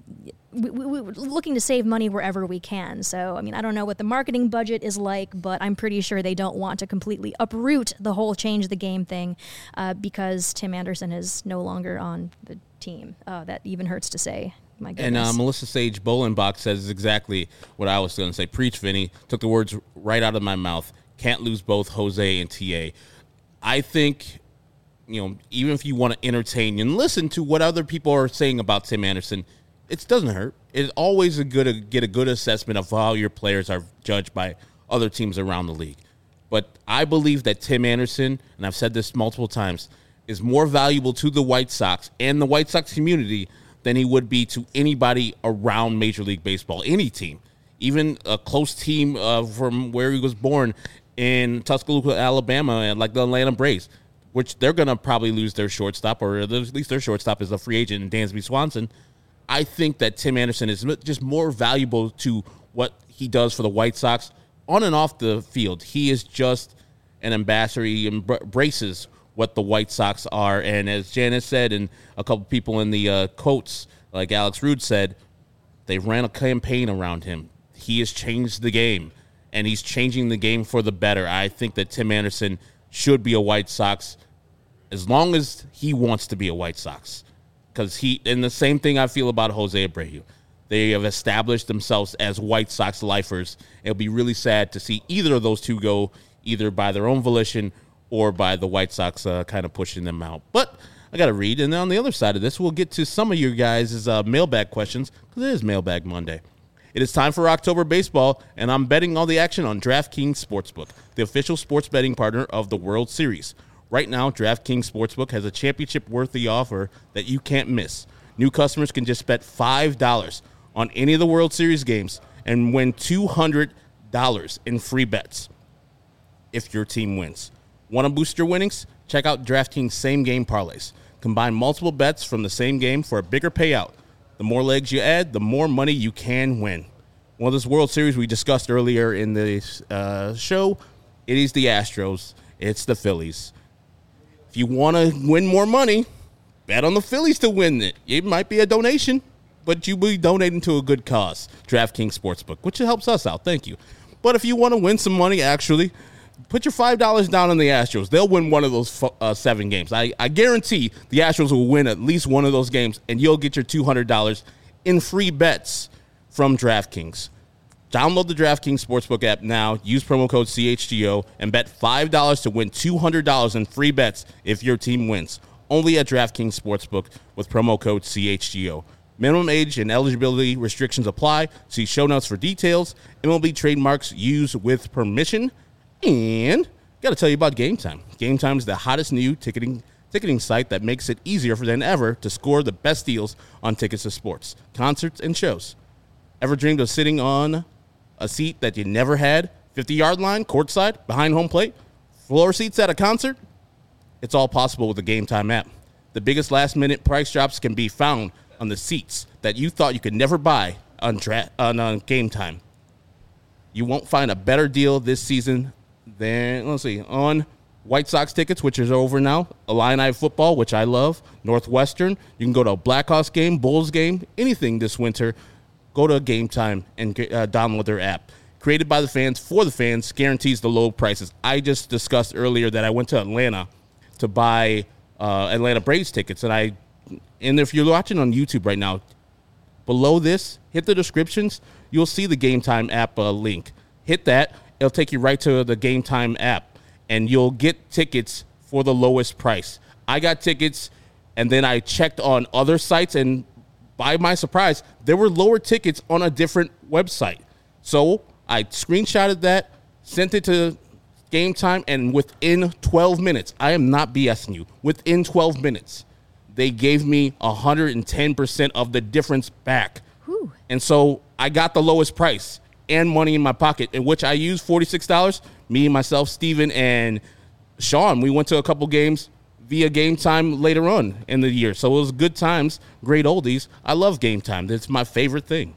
we, we, we're looking to save money wherever we can. So, I mean, I don't know what the marketing budget is like, but I'm pretty sure they don't want to completely uproot the whole change the game thing uh, because Tim Anderson is no longer on the team. Uh, that even hurts to say. My goodness. And uh, Melissa Sage Bolenbach says exactly what I was going to say. Preach, Vinny. Took the words right out of my mouth. Can't lose both Jose and T A. I think, you know, even if you want to entertain and listen to what other people are saying about Tim Anderson, it doesn't hurt. It's always a good to get a good assessment of how your players are judged by other teams around the league. But I believe that Tim Anderson, and I've said this multiple times, is more valuable to the White Sox and the White Sox community than he would be to anybody around Major League Baseball, any team, even a close team uh, from where he was born in Tuscaloosa, Alabama, and like the Atlanta Braves, which they're going to probably lose their shortstop, or at least their shortstop is a free agent in Dansby Swanson. I think that Tim Anderson is just more valuable to what he does for the White Sox on and off the field. He is just an ambassador. He embraces what the White Sox are. And as Janice said, and a couple people in the uh, quotes, like Alex Rude said, they ran a campaign around him. He has changed the game, and he's changing the game for the better. I think that Tim Anderson should be a White Sox as long as he wants to be a White Sox. Because he, and the same thing I feel about Jose Abreu. They have established themselves as White Sox lifers. It'll be really sad to see either of those two go either by their own volition or by the White Sox uh, kind of pushing them out. But I got to read, and then on the other side of this, we'll get to some of your guys' uh, mailbag questions, because it is Mailbag Monday. It is time for October baseball, and I'm betting all the action on DraftKings Sportsbook, the official sports betting partner of the World Series. Right now, DraftKings Sportsbook has a championship-worthy offer that you can't miss. New customers can just bet five dollars on any of the World Series games and win two hundred dollars in free bets if your team wins. Want to boost your winnings? Check out DraftKings same-game parlays. Combine multiple bets from the same game for a bigger payout. The more legs you add, the more money you can win. Well, this World Series we discussed earlier in the uh, show, it is the Astros. It's the Phillies. If you want to win more money, bet on the Phillies to win it. It might be a donation, but you'll be donating to a good cause, DraftKings Sportsbook, which helps us out. Thank you. But if you want to win some money, actually, put your five dollars down on the Astros. They'll win one of those uh, seven games. I, I guarantee the Astros will win at least one of those games, and you'll get your two hundred dollars in free bets from DraftKings. Download the DraftKings Sportsbook app now, use promo code C H G O, and bet five dollars to win two hundred dollars in free bets if your team wins. Only at DraftKings Sportsbook with promo code C H G O. Minimum age and eligibility restrictions apply. See show notes for details. M L B trademarks used with permission. And got to tell you about Game Time. Game Time is the hottest new ticketing ticketing site that makes it easier than ever to score the best deals on tickets to sports, concerts, and shows. Ever dreamed of sitting on a seat that you never had? fifty-yard line, courtside, behind home plate, floor seats at a concert? It's all possible with the Game Time app. The biggest last-minute price drops can be found on the seats that you thought you could never buy on, dra- on, on Game Time. You won't find a better deal this season than, let's see, on White Sox tickets, which is over now, Illini football, which I love, Northwestern. You can go to a Blackhawks game, Bulls game, anything this winter. Go to Game Time and uh, download their app. Created by the fans, for the fans, guarantees the low prices. I just discussed earlier that I went to Atlanta to buy uh, Atlanta Braves tickets. And I, and if you're watching on YouTube right now, below this, hit the descriptions. You'll see the Game Time app uh, link. Hit that. It'll take you right to the Game Time app. And you'll get tickets for the lowest price. I got tickets, and then I checked on other sites, and by my surprise, there were lower tickets on a different website. So I screenshotted that, sent it to Game Time, and within twelve minutes, I am not BSing you, within twelve minutes, they gave me one hundred ten percent of the difference back. Whew. And so I got the lowest price and money in my pocket, in which I used forty-six dollars. Me, myself, Steven, and Sean, we went to a couple games via Game Time later on in the year. So it was good times, great oldies. I love Game Time. It's my favorite thing.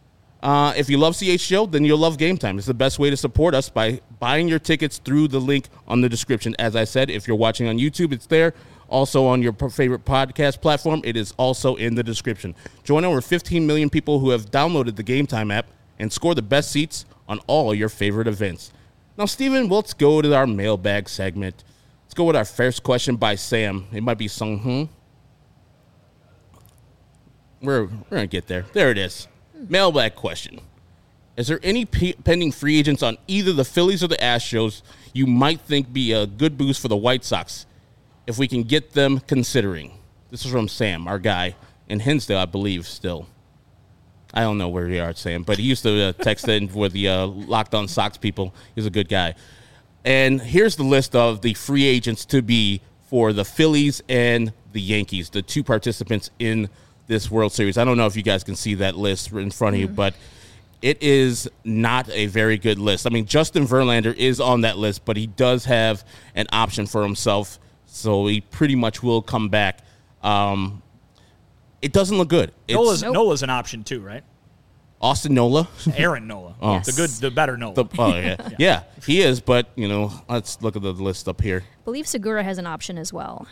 Uh, if you love C H G O, then you'll love Game Time. It's the best way to support us by buying your tickets through the link on the description. As I said, if you're watching on YouTube, it's there. Also on your favorite podcast platform, it is also in the description. Join over fifteen million people who have downloaded the Game Time app and score the best seats on all your favorite events. Now, Steven, let's go to our mailbag segment. Let's go with our first question by Sam. It might be Sung Hoon. We're, we're going to get there. There it is. Mailbag question. Is there any p- pending free agents on either the Phillies or the Astros you might think be a good boost for the White Sox if we can get them considering? This is from Sam, our guy, in Hinsdale, I believe, still. I don't know where they are, Sam, but he used to uh, text in with the uh, Locked On Sox people. He's a good guy. And here's the list of the free agents to be for the Phillies and the Yankees, the two participants in this World Series. I don't know if you guys can see that list in front of mm. you, but it is not a very good list. I mean, Justin Verlander is on that list, but he does have an option for himself, so he pretty much will come back. Um, it doesn't look good. It's, Nola's, nope. Nola's an option too, right? Austin Nola? Aaron Nola. Oh. Yes. The good, the better Nola. The, oh, yeah. yeah. Yeah, he is, but, you know, let's look at the list up here. I believe Segura has an option as well.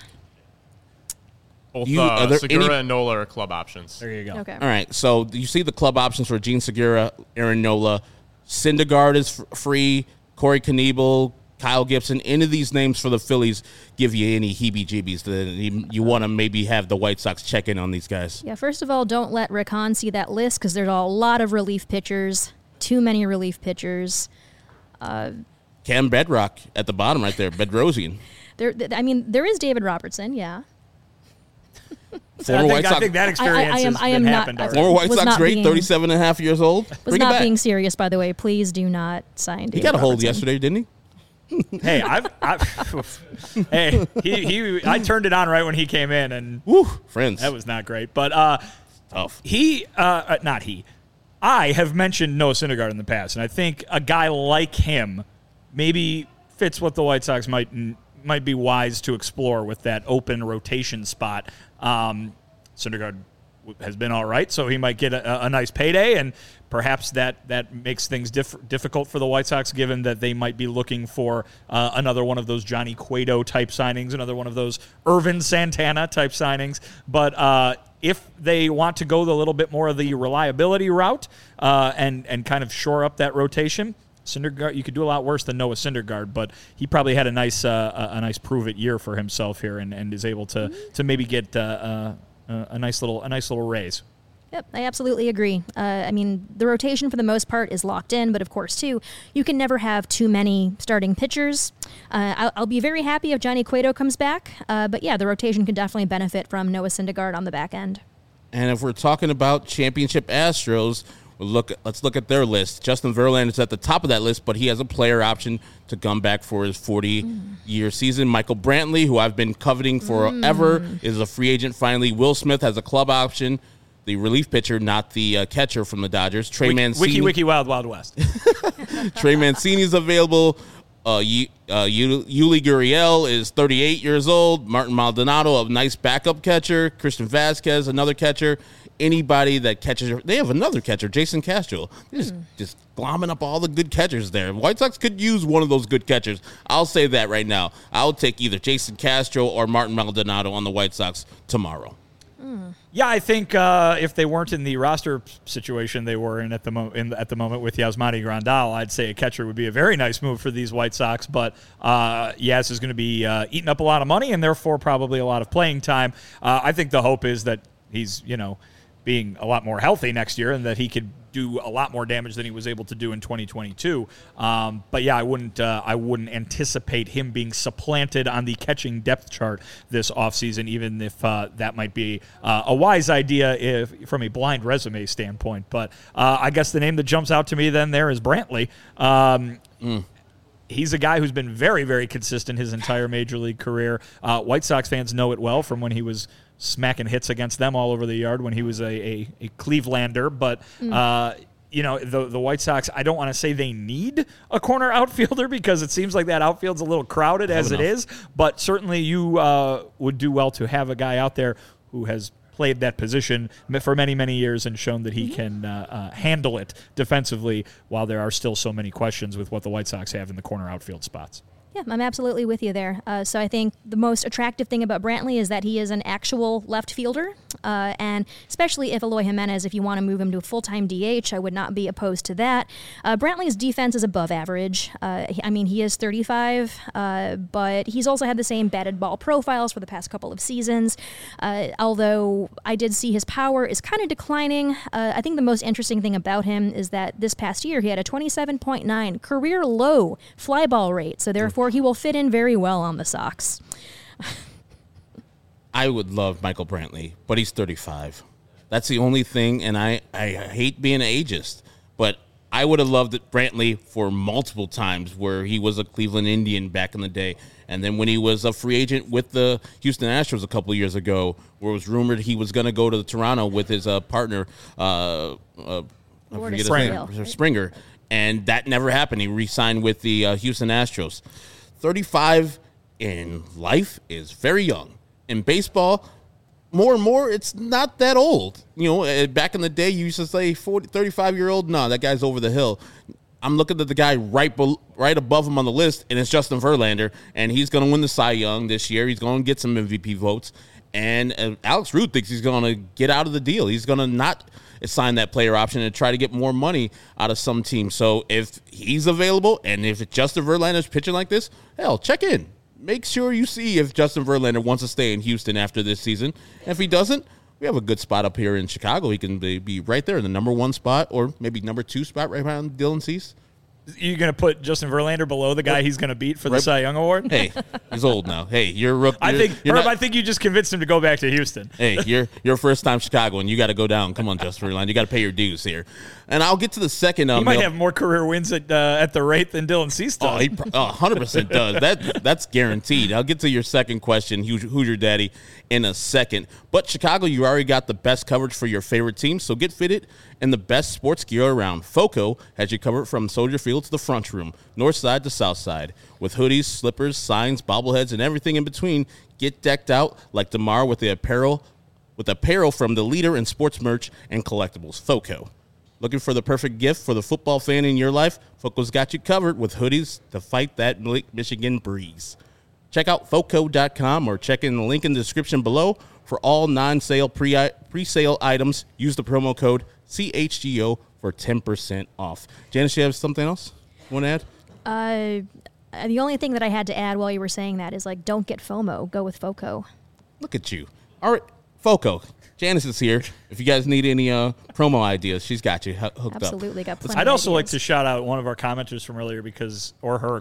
Both You- uh, are there Segura any- and Nola are club options. There you go. Okay. All right, so you see the club options for Gene Segura, Aaron Nola. Syndergaard is f- free. Corey Knebel, Kyle Gibson. Any of these names for the Phillies give you any heebie-jeebies that you, you want to maybe have the White Sox check in on these guys? Yeah, first of all, don't let Rick Hahn see that list because there's a lot of relief pitchers, too many relief pitchers. Cam Bedrock at the bottom right there, Bedrosian. There, th- I mean, there is David Robertson, yeah. So I, Former think, White I Sox, think that experience I- I am- has I been am not- happened I- already. former White was Sox not great, being- thirty-seven and a half years old. Was Bring it not back. being serious, by the way. Please do not sign David He got a hold Robertson. yesterday, didn't he? Hey, I've, I've hey, he, he, I turned it on right when he came in, and Woo, friends. that was not great. But uh, tough. he, uh, uh, not he, I have mentioned Noah Syndergaard in the past, and I think a guy like him maybe fits what the White Sox might might be wise to explore with that open rotation spot. Um, Syndergaard has been all right, so he might get a, a nice payday, and perhaps that, that makes things diff- difficult for the White Sox, given that they might be looking for uh, another one of those Johnny Cueto-type signings, another one of those Irvin Santana-type signings. But uh, if they want to go the little bit more of the reliability route uh, and, and kind of shore up that rotation, Syndergaard, you could do a lot worse than Noah Syndergaard, but he probably had a nice uh, a, a nice prove-it year for himself here, and, and is able to to maybe get uh, uh, uh, a nice little a nice little raise. Yep, I absolutely agree. Uh, I mean, the rotation for the most part is locked in, but of course, too, you can never have too many starting pitchers. Uh, I'll, I'll be very happy if Johnny Cueto comes back, uh, but yeah, the rotation could definitely benefit from Noah Syndergaard on the back end. And if we're talking about championship Astros, we'll look. Let's look at their list. Justin Verlander is at the top of that list, but he has a player option to come back for his forty-year mm. season. Michael Brantley, who I've been coveting forever, mm. is a free agent finally. Will Smith has a club option. The relief pitcher, not the uh, catcher from the Dodgers. Trey Wiki, Mancini. Wiki, wiki, wild, wild west. Trey Mancini is available. Uh, y- uh, Yuli Gurriel is thirty-eight years old. Martin Maldonado, a nice backup catcher. Christian Vasquez, another catcher. Anybody that catches, they have another catcher, Jason Castro. They're just, mm. just glomming up all the good catchers there. White Sox could use one of those good catchers. I'll say that right now. I'll take either Jason Castro or Martin Maldonado on the White Sox tomorrow. Mm. Yeah, I think uh, if they weren't in the roster situation they were in at the mo- in, at the moment with Yasmani Grandal, I'd say a catcher would be a very nice move for these White Sox. But uh, Yaz is going to be uh, eating up a lot of money and therefore probably a lot of playing time. Uh, I think the hope is that he's, you know, being a lot more healthy next year and that he could do a lot more damage than he was able to do in twenty twenty-two. Um, but yeah, I wouldn't uh, I wouldn't anticipate him being supplanted on the catching depth chart this offseason, even if uh, that might be uh, a wise idea if from a blind resume standpoint. But uh, I guess the name that jumps out to me then there is Brantley. Um, mm. He's a guy who's been very, very consistent his entire Major League career. Uh, White Sox fans know it well from when he was smacking hits against them all over the yard when he was a, a, a Clevelander. But, mm. uh, you know, the the White Sox, I don't want to say they need a corner outfielder because it seems like that outfield's a little crowded as it is. But certainly you uh, would do well to have a guy out there who has played that position for many, many years and shown that he mm-hmm. can uh, uh, handle it defensively while there are still so many questions with what the White Sox have in the corner outfield spots. Yeah, I'm absolutely with you there. Uh, so I think the most attractive thing about Brantley is that he is an actual left fielder, uh, and especially if Eloy Jimenez, if you want to move him to a full-time D H, I would not be opposed to that. Uh, Brantley's defense is above average. Uh, I mean, he is thirty-five, uh, but he's also had the same batted ball profiles for the past couple of seasons. Uh, although I did see his power is kind of declining. Uh, I think the most interesting thing about him is that this past year he had a twenty-seven point nine career low fly ball rate, so therefore he will fit in very well on the Sox. I would love Michael Brantley, but he's thirty-five. That's the only thing, and I, I hate being an ageist, but I would have loved it Brantley for multiple times where he was a Cleveland Indian back in the day, and then when he was a free agent with the Houston Astros a couple of years ago, where it was rumored he was going to go to Toronto with his uh, partner, uh, uh, I forget his name, Springer, and that never happened. He re-signed with the uh, Houston Astros. thirty-five in life is very young. In baseball, more and more, it's not that old. You know, back in the day, you used to say forty, thirty-five-year-old, no, that guy's over the hill. I'm looking at the guy right be- right above him on the list, and it's Justin Verlander, and he's going to win the Cy Young this year. He's going to get some M V P votes, and uh, Alex Ruth thinks he's going to get out of the deal. He's going to not sign that player option and try to get more money out of some team. So if he's available and if Justin Verlander's pitching like this, hell, check in. Make sure you see if Justin Verlander wants to stay in Houston after this season. And if he doesn't, we have a good spot up here in Chicago. He can be, be right there in the number one spot or maybe number two spot right behind Dylan Cease. You're going to put Justin Verlander below the guy he's going to beat for the right. Cy Young Award? Hey, he's old now. Hey, you're rookie. I think, you're Herb, not, I think you just convinced him to go back to Houston. Hey, you're you're first time Chicago, and you got to go down. Come on, Justin Verlander. You got to pay your dues here. And I'll get to the second. Um, he might have more career wins at uh, at the rate than Dylan Cease does. Oh, he oh, one hundred percent does. That That's guaranteed. I'll get to your second question, who's, who's your daddy, in a second. But Chicago, you already got the best coverage for your favorite team, so get fitted in the best sports gear around. FOCO has you covered from Soldier Field to the front room, north side to south side. With hoodies, slippers, signs, bobbleheads, and everything in between, get decked out like DeMar with the apparel with apparel from the leader in sports merch and collectibles, FOCO. Looking for the perfect gift for the football fan in your life? FOCO's got you covered with hoodies to fight that Lake Michigan breeze. Check out foco dot com or check in the link in the description below for all non-sale pre- pre-sale items. Use the promo code C H G O for ten percent off. Janice, you have something else you want to add? Uh, the only thing that I had to add while you were saying that is, like, don't get FOMO. Go with FOCO. Look at you. All right, FOCO. Janice is here. If you guys need any uh, promo ideas, she's got you hooked Absolutely, up. Absolutely, got plenty I'd also of like ideas. to shout out one of our commenters from earlier because, or her,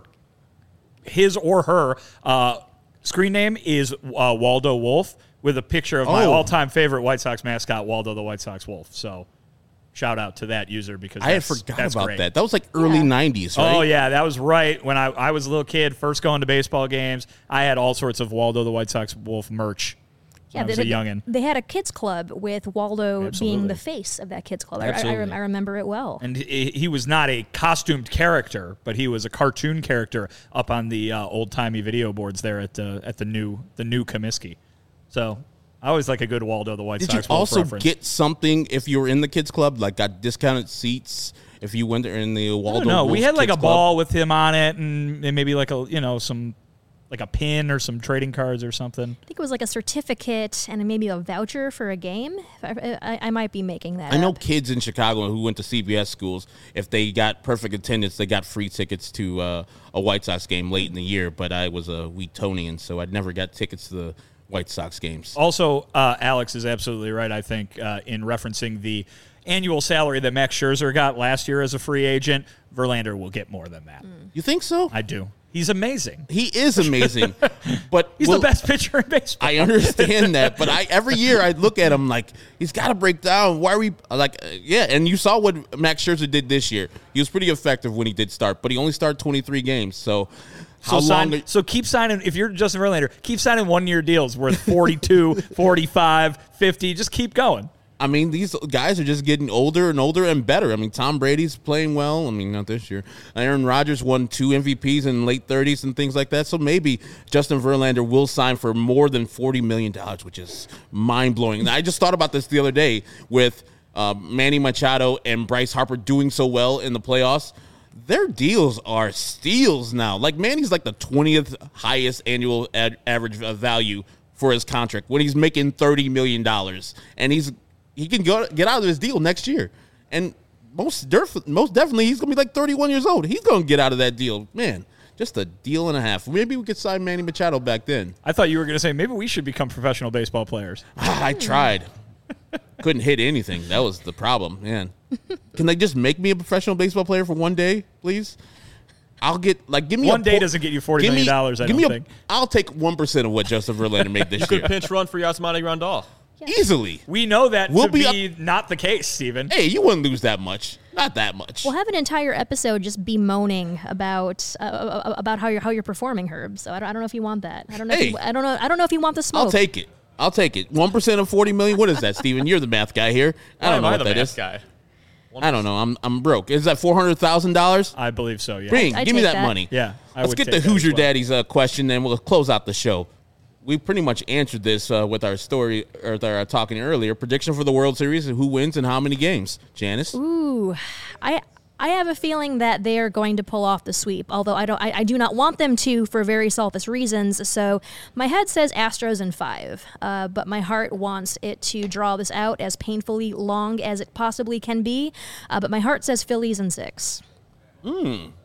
his or her uh, screen name is uh, Waldo Wolf with a picture of my Oh. all-time favorite White Sox mascot, Waldo the White Sox Wolf. So shout out to that user because I had that's, forgot that's about great. that. That was like early Yeah. nineties, right? Oh, yeah, that was right. When I, I was a little kid, first going to baseball games, I had all sorts of Waldo the White Sox Wolf merch. Yeah, I was they, a youngin'. They had a kids club with Waldo Absolutely. being the face of that kids club. I, I, I, Absolutely. rem- I remember it well. And he, he was not a costumed character, but he was a cartoon character up on the uh, old timey video boards there at the at the new the new Comiskey. So I always like a good Waldo the White Did you Sox Wolf also reference. get something if you were in the kids club, like got discounted seats if you went there in the Waldo? No, we Wolf had like a Kids Club? ball with him on it, and, and maybe like a you know some like a pin or some trading cards or something. I think it was like a certificate and maybe a voucher for a game. I, I, I might be making that I know up. kids in Chicago who went to C B S schools, if they got perfect attendance, they got free tickets to uh, a White Sox game late in the year. But I was a Wheatonian, so I never got tickets to the White Sox games. Also, uh, Alex is absolutely right, I think, uh, in referencing the annual salary that Max Scherzer got last year as a free agent. Verlander will get more than that. You think so? I do. He's amazing. He is amazing, but He's well, the best pitcher in baseball. I understand that, but I every year I look at him like he's got to break down. Why are we like? Uh, yeah, and you saw what Max Scherzer did this year. He was pretty effective when he did start, but he only started twenty-three games. So So, how sign, long? so keep signing. If you're Justin Verlander, keep signing one-year deals worth forty-two, forty-five, fifty. Just keep going. I mean, these guys are just getting older and older and better. I mean, Tom Brady's playing well. I mean, not this year. Aaron Rodgers won two M V Ps in the late thirties and things like that. So maybe Justin Verlander will sign for more than forty million dollars, which is mind-blowing. And I just thought about this the other day with uh, Manny Machado and Bryce Harper doing so well in the playoffs. Their deals are steals now. Like, Manny's like the twentieth highest annual ad- average value for his contract when he's making thirty million dollars. And he's he can go get out of his deal next year. And most def- most definitely, he's going to be like thirty-one years old. He's going to get out of that deal. Man, just a deal and a half. Maybe we could sign Manny Machado back then. I thought you were going to say maybe we should become professional baseball players. I tried. Couldn't hit anything. That was the problem, man. Can they just make me a professional baseball player for one day, please? I'll get, like, give me One a day por- doesn't get you forty give million me- dollars, I give don't me a- think. I'll take one percent of what Justin Verlander made this Good year. pinch run for Yasmani Grandal. Easily. We know that We'll to be be, not the case, Steven. Hey, you wouldn't lose that much. Not that much. We'll have an entire episode just bemoaning about uh, about how you're how you're performing, Herb. So I don't, I don't know if you want that. I don't know. Hey. if you, I don't know. I don't know if you want the smoke. I'll take it. I'll take it. One percent of forty million. What is that, Steven? You're the math guy here. I Why don't am know I what the that math is. guy? I don't know. I'm I'm broke. Is that four hundred thousand dollars? I believe so, yeah. Bring, I'd give me take that, that. money. Yeah, I Let's would get take the that as Hoosier well. Daddy's uh, question, and we'll close out the show. We pretty much answered this uh, with our story, or with our talking earlier. Prediction for the World Series: who wins and how many games? Janice. Ooh, I I have a feeling that they are going to pull off the sweep. Although I don't, I, I do not want them to for very selfish reasons. So my head says Astros in five, uh, but my heart wants it to draw this out as painfully long as it possibly can be. Uh, but my heart says Phillies in six. Wow.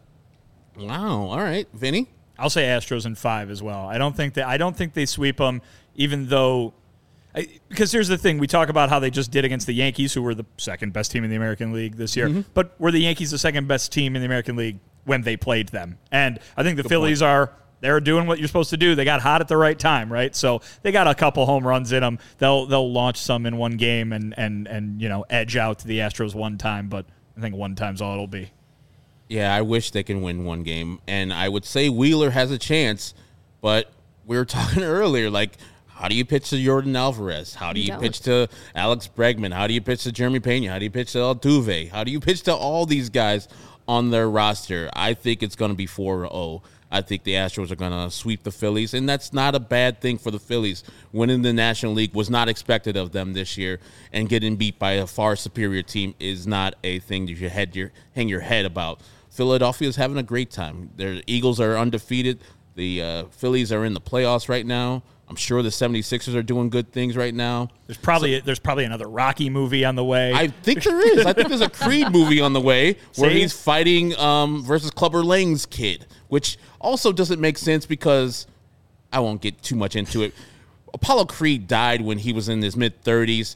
All right, Vinny. I'll say Astros in five as well. I don't think that I don't think they sweep them, even though. I, because here's the thing: we talk about how they just did against the Yankees, who were the second best team in the American League this year. Mm-hmm. But were the Yankees the second best team in the American League when they played them? And I think the Phillies are. They're doing what you're supposed to do. They got hot at the right time, right? So they got a couple home runs in them. They'll they'll launch some in one game and and and you know edge out the Astros one time. But I think one time's all it'll be. Yeah, I wish they can win one game, and I would say Wheeler has a chance, but we were talking earlier, like, how do you pitch to Jordan Alvarez? How do You you don't. pitch to Alex Bregman? How do you pitch to Jeremy Pena? How do you pitch to Altuve? How do you pitch to all these guys on their roster? I think it's going to be four oh. I think the Astros are going to sweep the Phillies, and that's not a bad thing for the Phillies. Winning the National League was not expected of them this year, and getting beat by a far superior team is not a thing you should head your, hang your head about. Philadelphia is having a great time. Their Eagles are undefeated. The uh, Phillies are in the playoffs right now. I'm sure the seventy-sixers are doing good things right now. There's probably so, there's probably another Rocky movie on the way. I think there is. I think there's a Creed movie on the way where See? he's fighting um, versus Clubber Lang's kid, which also doesn't make sense because I won't get too much into it. Apollo Creed died when he was in his mid-thirties.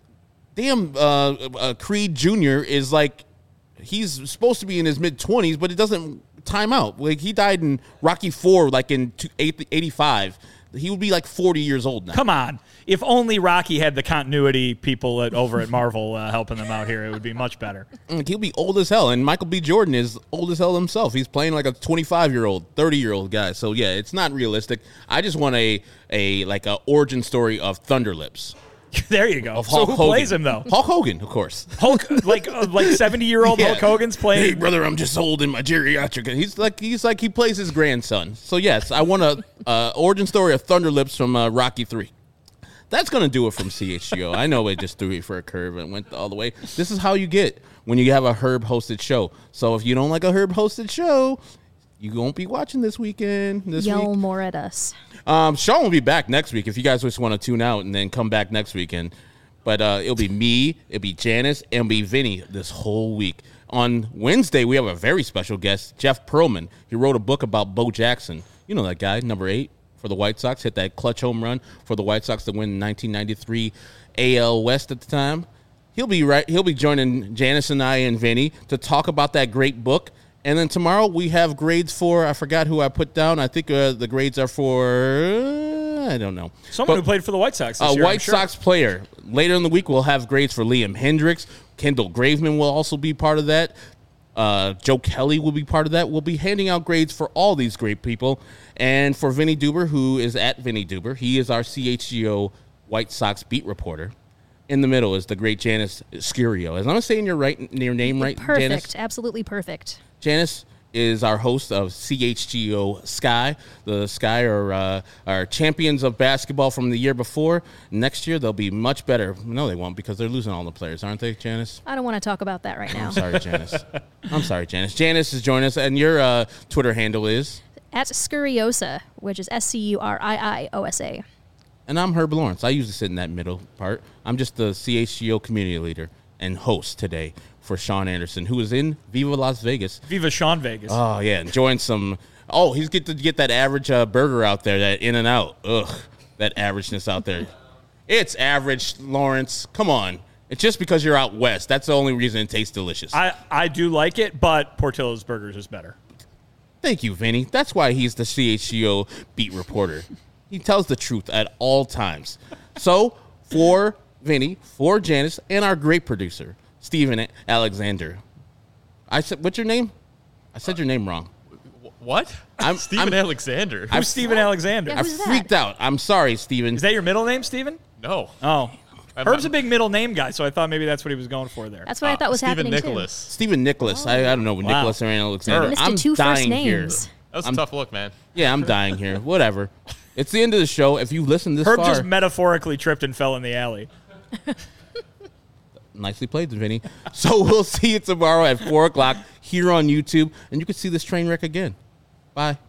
Damn, uh, uh, Creed Junior is like, he's supposed to be in his mid-twenties, but it doesn't time out. Like, he died in Rocky four, like in eighty-five. He would be like forty years old now. Come on. If only Rocky had the continuity people at, over at Marvel uh, helping them out here, it would be much better. He'll be old as hell. And Michael B. Jordan is old as hell himself. He's playing like a twenty-five-year-old, thirty-year-old guy. So, yeah, it's not realistic. I just want a, a like a origin story of Thunderlips. There you go. Of So Hulk who Hogan. plays him, though? Hulk Hogan, of course. Hulk, like uh, like seventy-year-old Yeah. Hulk Hogan's playing. Hey, brother, I'm just old in my geriatric. He's like he's like he plays his grandson. So yes, I want a uh, origin story of Thunderlips from uh, Rocky three. That's gonna do it from C H G O. I know it just threw it for a curve and went all the way. This is how you get when you have a Herb hosted show. So if you don't like a Herb hosted show, you won't be watching this weekend. This Yell week. more at us. Um, Sean will be back next week if you guys just want to tune out and then come back next weekend. But uh, it'll be me, it'll be Janice, and it'll be Vinny this whole week. On Wednesday, we have a very special guest, Jeff Pearlman. He wrote a book about Bo Jackson. You know that guy, number eight for the White Sox, hit that clutch home run for the White Sox to win the nineteen ninety-three A L West at the time. He'll be right. He'll be joining Janice and I and Vinny to talk about that great book. And then tomorrow we have grades for, I forgot who I put down. I think uh, the grades are for, uh, I don't know. Someone But, who played for the White Sox this A year, I'm White sure. Sox player. Later in the week, we'll have grades for Liam Hendricks. Kendall Graveman will also be part of that. Uh, Joe Kelly will be part of that. We'll be handing out grades for all these great people. And for Vinny Duber, who is at Vinny Duber, he is our C H G O White Sox beat reporter. In the middle is the great Janice Scurio. As I'm saying your right, your name right, Perfect. Janice? Absolutely perfect. Janice is our host of C H G O Sky. The Sky are uh, are champions of basketball from the year before. Next year, they'll be much better. No, they won't because they're losing all the players, aren't they, Janice? I don't want to talk about that right now. I'm sorry, Janice. I'm sorry, Janice. Janice is joining us, and your uh, Twitter handle is? At Scuriosa, which is S C U R I I O S A. And I'm Herb Lawrence. I usually sit in that middle part. I'm just the C H G O community leader and host today for Sean Anderson, who is in Viva Las Vegas. Viva Sean Vegas. Oh, yeah, enjoying some. Oh, he's get to get that average uh, burger out there, that In and Out. Ugh, that averageness out there. It's average, Lawrence. Come on. It's just because you're out west. That's the only reason it tastes delicious. I, I do like it, but Portillo's Burgers is better. Thank you, Vinny. That's why he's the C H G O beat reporter. He tells the truth at all times. So, for Vinny, for Janice, and our great producer, Steven Alexander. I said, what's your name? I said your name wrong. What? I'm- Steven I'm- Alexander. Who's Steven Alexander? Yeah, I Who's that? freaked out. I'm sorry, Steven. Is that your middle name, Steven? no. Oh. I'm- Herb's a I'm- big middle name guy, so I thought maybe that's what he was going for there. That's what I uh, thought was Steven happening Nicholas. Steven Nicholas. I, I don't know what Wow. Nicholas or Alexander. too. Missed I'm the two first dying here. names. That was I'm- a tough look, man. Yeah, I'm dying here. Whatever. It's the end of the show. If you listen this Herb far, just metaphorically tripped and fell in the alley. nicely played, Vinny. So we'll see you tomorrow at four o'clock here on YouTube, and you can see this train wreck again. Bye.